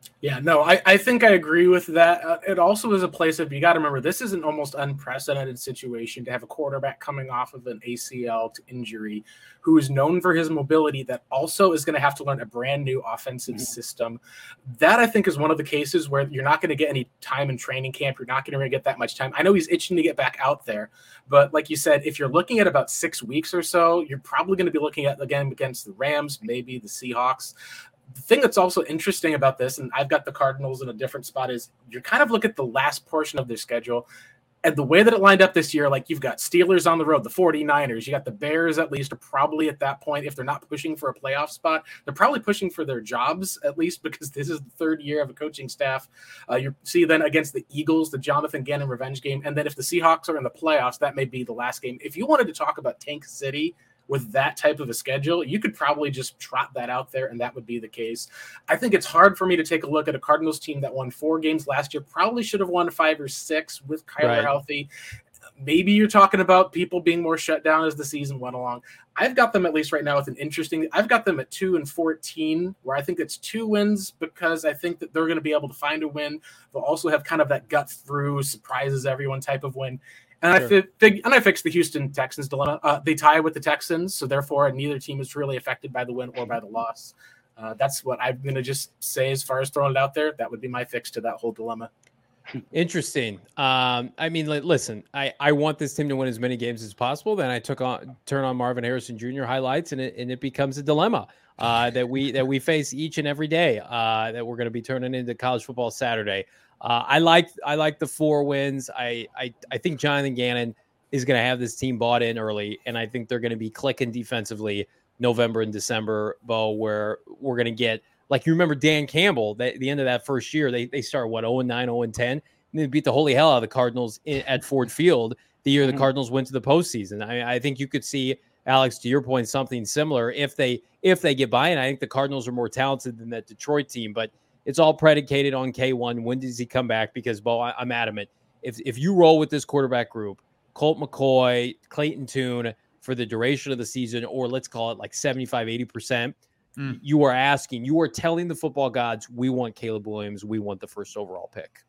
C: Yeah, no, I, I think I agree with that. Uh, it also is a place of, you got to remember, this is an almost unprecedented situation to have a quarterback coming off of an A C L to injury who is known for his mobility that also is going to have to learn a brand new offensive mm-hmm. system. That I think is one of the cases where you're not going to get any time in training camp. You're not going to get that much time. I know he's itching to get back out there, but like you said, if you're looking at about six weeks or so, you're probably going to be looking at, again, against the Rams, maybe the Seahawks. The thing that's also interesting about this, and I've got the Cardinals in a different spot, is you kind of look at the last portion of their schedule and the way that it lined up this year. Like, you've got Steelers on the road, the 49ers, you got the Bears, at least, are probably at that point, if they're not pushing for a playoff spot, they're probably pushing for their jobs, at least, because this is the third year of a coaching staff. Uh, you see then against the Eagles, the Jonathan Gannon revenge game. And then if the Seahawks are in the playoffs, that may be the last game. If you wanted to talk about Tank City with that type of a schedule, you could probably just trot that out there, and that would be the case. I think it's hard for me to take a look at a Cardinals team that won four games last year, probably should have won five or six with Kyler
A: right.
C: healthy. Maybe you're talking about people being more shut down as the season went along. I've got them, at least right now, with an interesting – I've got them at two and fourteen, where I think it's two wins because I think that they're going to be able to find a win. They'll also have kind of that gut through, surprises everyone type of win. And sure. I fi- fig- and I fixed the Houston Texans dilemma. Uh, they tie with the Texans, so therefore neither team is really affected by the win or by the loss. Uh, that's what I'm going to just say as far as throwing it out there. That would be my fix to that whole dilemma.
A: Interesting. Um, I mean, li- listen, I, I want this team to win as many games as possible. Then I took on turn on Marvin Harrison Junior highlights, and it and it becomes a dilemma uh, that we that we face each and every day. Uh, that we're going to be turning into College Football Saturday. Uh, I like I like the four wins. I I, I think Jonathan Gannon is going to have this team bought in early, and I think they're going to be clicking defensively November and December, Bo, where we're going to get, like, you remember Dan Campbell, they, the end of that first year, they they started, what, oh and nine, oh and ten, and they beat the holy hell out of the Cardinals in, at Ford Field the year the mm-hmm. Cardinals went to the postseason. I, I think you could see, Alex, to your point, something similar if they if they get by, and I think the Cardinals are more talented than that Detroit team, but it's all predicated on K one. When does he come back? Because, Bo, I, I'm adamant. If if you roll with this quarterback group, Colt McCoy, Clayton Tune, for the duration of the season, or let's call it like seventy-five, eighty percent, mm. you are asking, you are telling the football gods, we want Caleb Williams. We want the first overall pick.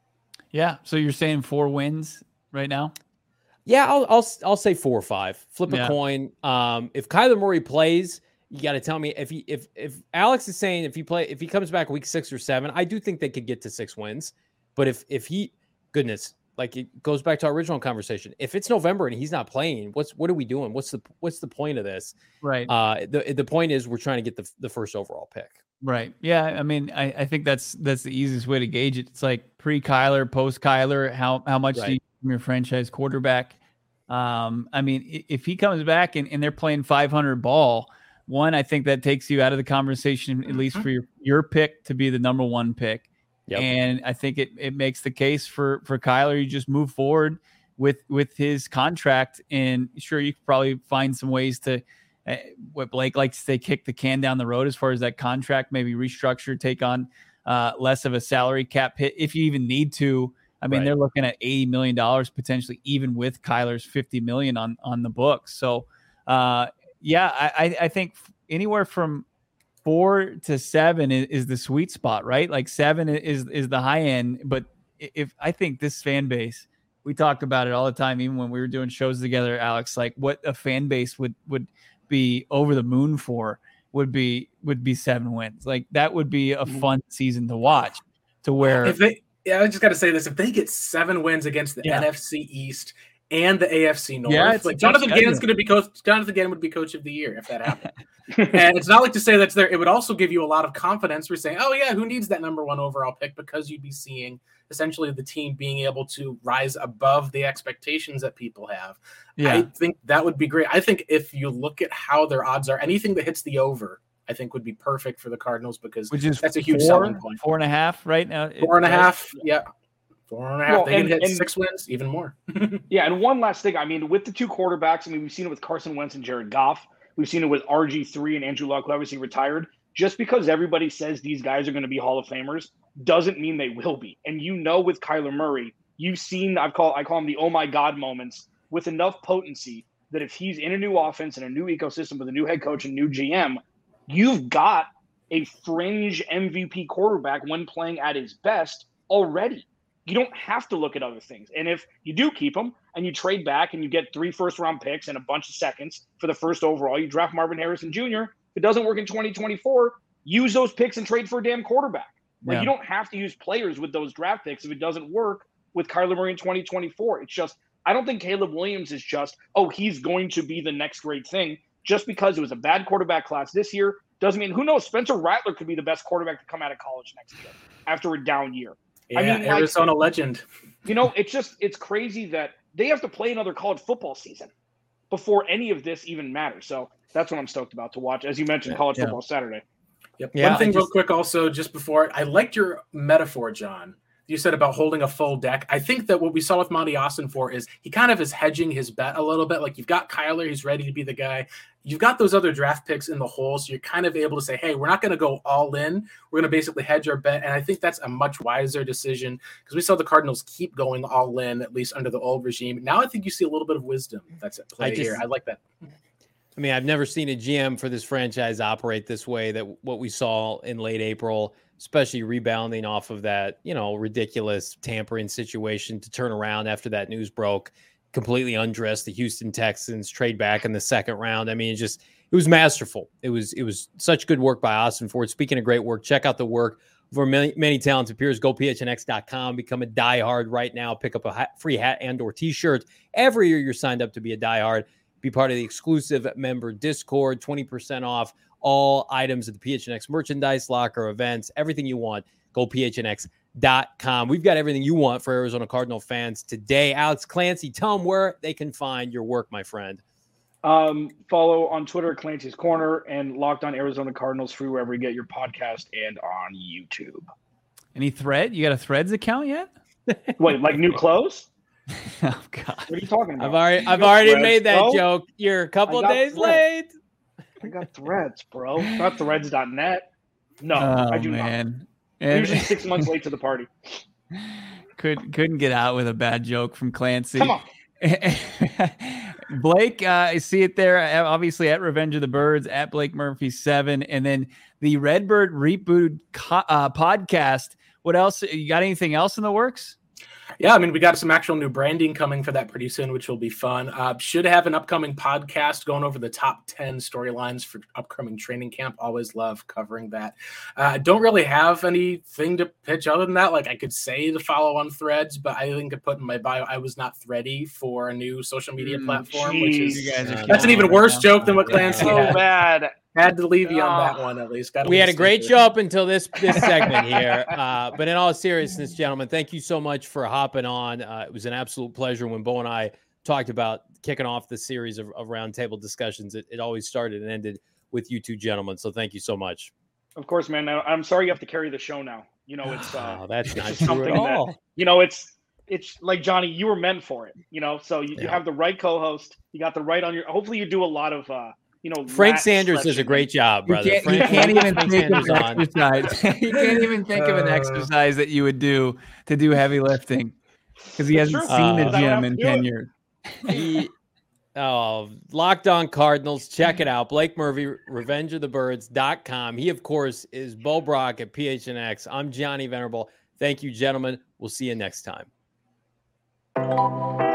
B: Yeah. So you're saying four wins right now?
A: Yeah, I'll I'll, I'll say four or five. Flip a
B: yeah.
A: coin. Um, if Kyler Murray plays, you got to tell me if he if if Alex is saying if he play if he comes back week six or seven, I do think they could get to six wins. But if if he, goodness, like it goes back to our original conversation. If it's November and he's not playing, what's what are we doing? What's the what's the point of this?
B: Right.
A: Uh, the the point is we're trying to get the the first overall pick.
B: Right. Yeah. I mean, I, I think that's that's the easiest way to gauge it. It's like pre Kyler, post Kyler. How how much right. do you from your franchise quarterback? Um, I mean, if he comes back and, and they're playing five hundred ball. One, I think that takes you out of the conversation, at least for your, your pick to be the number one pick. Yep. And I think it, it makes the case for, for Kyler. You just move forward with, with his contract. And sure, you could probably find some ways to, uh, what Blake likes to say, kick the can down the road as far as that contract, maybe restructure, take on uh, less of a salary cap hit if you even need to. I mean, right. they're looking at eighty million dollars potentially, even with Kyler's fifty million dollars on, on the books. So, uh, yeah, I, I think anywhere from four to seven is, is the sweet spot, right? Like seven is is the high end. But if I think this fan base, we talk about it all the time, even when we were doing shows together, Alex, like what a fan base would would be over the moon for would be would be seven wins. Like that would be a fun season to watch. To where
C: if they, yeah, I just got to say this: if they get seven wins against the yeah. N F C East and the A F C North,
B: yeah,
C: like Jonathan Gannon's going to be coach. Jonathan Gannon would be coach of the year if that happened. And it's not like to say that's there. It would also give you a lot of confidence for saying, "Oh yeah, who needs that number one overall pick?" Because you'd be seeing essentially the team being able to rise above the expectations that people have. Yeah. I think that would be great. I think if you look at how their odds are, anything that hits the over, I think would be perfect for the Cardinals because
B: Which is
C: that's a huge
B: four,
C: selling point.
B: Four and a half right now.
C: Four and a half, yeah. Four and a half.
D: Well,
C: they
D: and,
C: can hit
D: and,
C: six wins, even more.
D: Yeah, and one last thing. I mean, with the two quarterbacks, I mean, we've seen it with Carson Wentz and Jared Goff. We've seen it with R G three and Andrew Luck, who obviously retired. Just because everybody says these guys are going to be Hall of Famers doesn't mean they will be. And you know, with Kyler Murray, you've seen, I've call, I call them the oh my God moments with enough potency that if he's in a new offense and a new ecosystem with a new head coach and new G M, you've got a fringe M V P quarterback when playing at his best already. You don't have to look at other things. And if you do keep him and you trade back and you get three first-round picks and a bunch of seconds for the first overall, you draft Marvin Harrison Junior If it doesn't work in twenty twenty-four, use those picks and trade for a damn quarterback. Like yeah. You don't have to use players with those draft picks if it doesn't work with Kyler Murray in twenty twenty-four. It's just – I don't think Caleb Williams is just, oh, he's going to be the next great thing. Just because it was a bad quarterback class this year doesn't mean – who knows? Spencer Rattler could be the best quarterback to come out of college next year after a down year.
C: Yeah,
D: I mean,
C: Arizona
D: like,
C: legend.
D: You know, it's just – it's crazy that they have to play another college football season before any of this even matters. So that's what I'm stoked about to watch. As you mentioned, college
C: yeah.
D: football Saturday.
C: Yep.
A: Yeah,
C: One thing
A: just,
C: real quick also, just before, I liked your metaphor, John. You said about holding a full deck. I think that what we saw with Monty Ossenfort is he kind of is hedging his bet a little bit. Like you've got Kyler, he's ready to be the guy. You've got those other draft picks in the hole, so you're kind of able to say, hey, we're not going to go all in. We're going to basically hedge our bet. And I think that's a much wiser decision because we saw the Cardinals keep going all in, at least under the old regime. Now I think you see a little bit of wisdom that's at play I just, here. I like that.
A: I mean, I've never seen a G M for this franchise operate this way, that what we saw in late April, especially rebounding off of that, you know, ridiculous tampering situation to turn around after that news broke, completely undress the Houston Texans, trade back in the second round. I mean, it just, it was masterful. It was, it was such good work by Ossenfort. Speaking of great work, check out the work for many, many talented peers. Go P H N X dot com, become a diehard right now. Pick up a hat, free hat and or t-shirt. Every year you're signed up to be a diehard. Be part of the exclusive member Discord, twenty percent off all items at the P H N X merchandise locker, events, everything you want. Go P H N X dot com. We've got everything you want for Arizona Cardinal fans today. Alex Clancy, tell them where they can find your work, my friend.
D: Um, follow on Twitter, Clancy's Corner, and Locked On Arizona Cardinals free wherever you get your podcast and on YouTube.
B: Any thread? You got a Threads account yet?
D: Wait, like new clothes?
B: Oh God!
D: What are you talking about?
A: I've already, I've already threads, made that bro. joke. You're a couple days
D: threads.
A: late.
D: I got Threads, bro. Not Threads dot net. No,
B: oh,
D: I do
B: man.
D: not. And usually six months late to the party.
B: Could couldn't get out with a bad joke from Clancy.
D: Come on.
B: Blake, uh, I see it there. Obviously at Revenge of the Birds, at Blake Murphy seven, and then the Redbird Reboot co- uh, podcast. What else? You got anything else in the works?
C: Yeah, I mean, we got some actual new branding coming for that pretty soon, which will be fun. Uh, should have an upcoming podcast going over the top ten storylines for upcoming training camp. Always love covering that. I uh, don't really have anything to pitch other than that. Like I could say to follow on Threads, but I think I put in my bio, I was not ready for a new social media mm, platform, geez. which is
D: you guys
C: uh, that's an even worse joke than what Clancy
D: so
C: had.
D: bad.
C: Had to leave you on that one at least. Got
A: we had a great show up until this this segment here. Uh, but in all seriousness, gentlemen, thank you so much for hopping on. Uh, it was an absolute pleasure when Bo and I talked about kicking off the series of, of roundtable discussions. It, it always started and ended with you two gentlemen. So thank you so much.
D: Of course, man. I'm sorry you have to carry the show now. You know, it's uh,
A: oh, that's
D: it's
A: not
D: just
A: true
D: something
A: at all.
D: that, you know, it's it's like Johnny, you were meant for it. You know, so you, yeah. you have the right co-host. You got the right on your. Hopefully, you do a lot of. Uh, You know,
A: Frank Sanders does a great job, brother.
B: You can't,
A: Frank,
B: you can't even
A: Frank
B: think
A: Sanders
B: of an
A: on.
B: exercise. You can't even think of an exercise that you would do to do heavy lifting because he hasn't
D: true.
B: seen the
A: Uh,
B: gym in ten
D: it.
B: years.
A: He, oh, Locked On Cardinals. Check it out. Blake Murphy, revenge of the birds dot com. He, of course, is Bo Brock at P H N X. I'm Johnny Venerable. Thank you, gentlemen. We'll see you next time.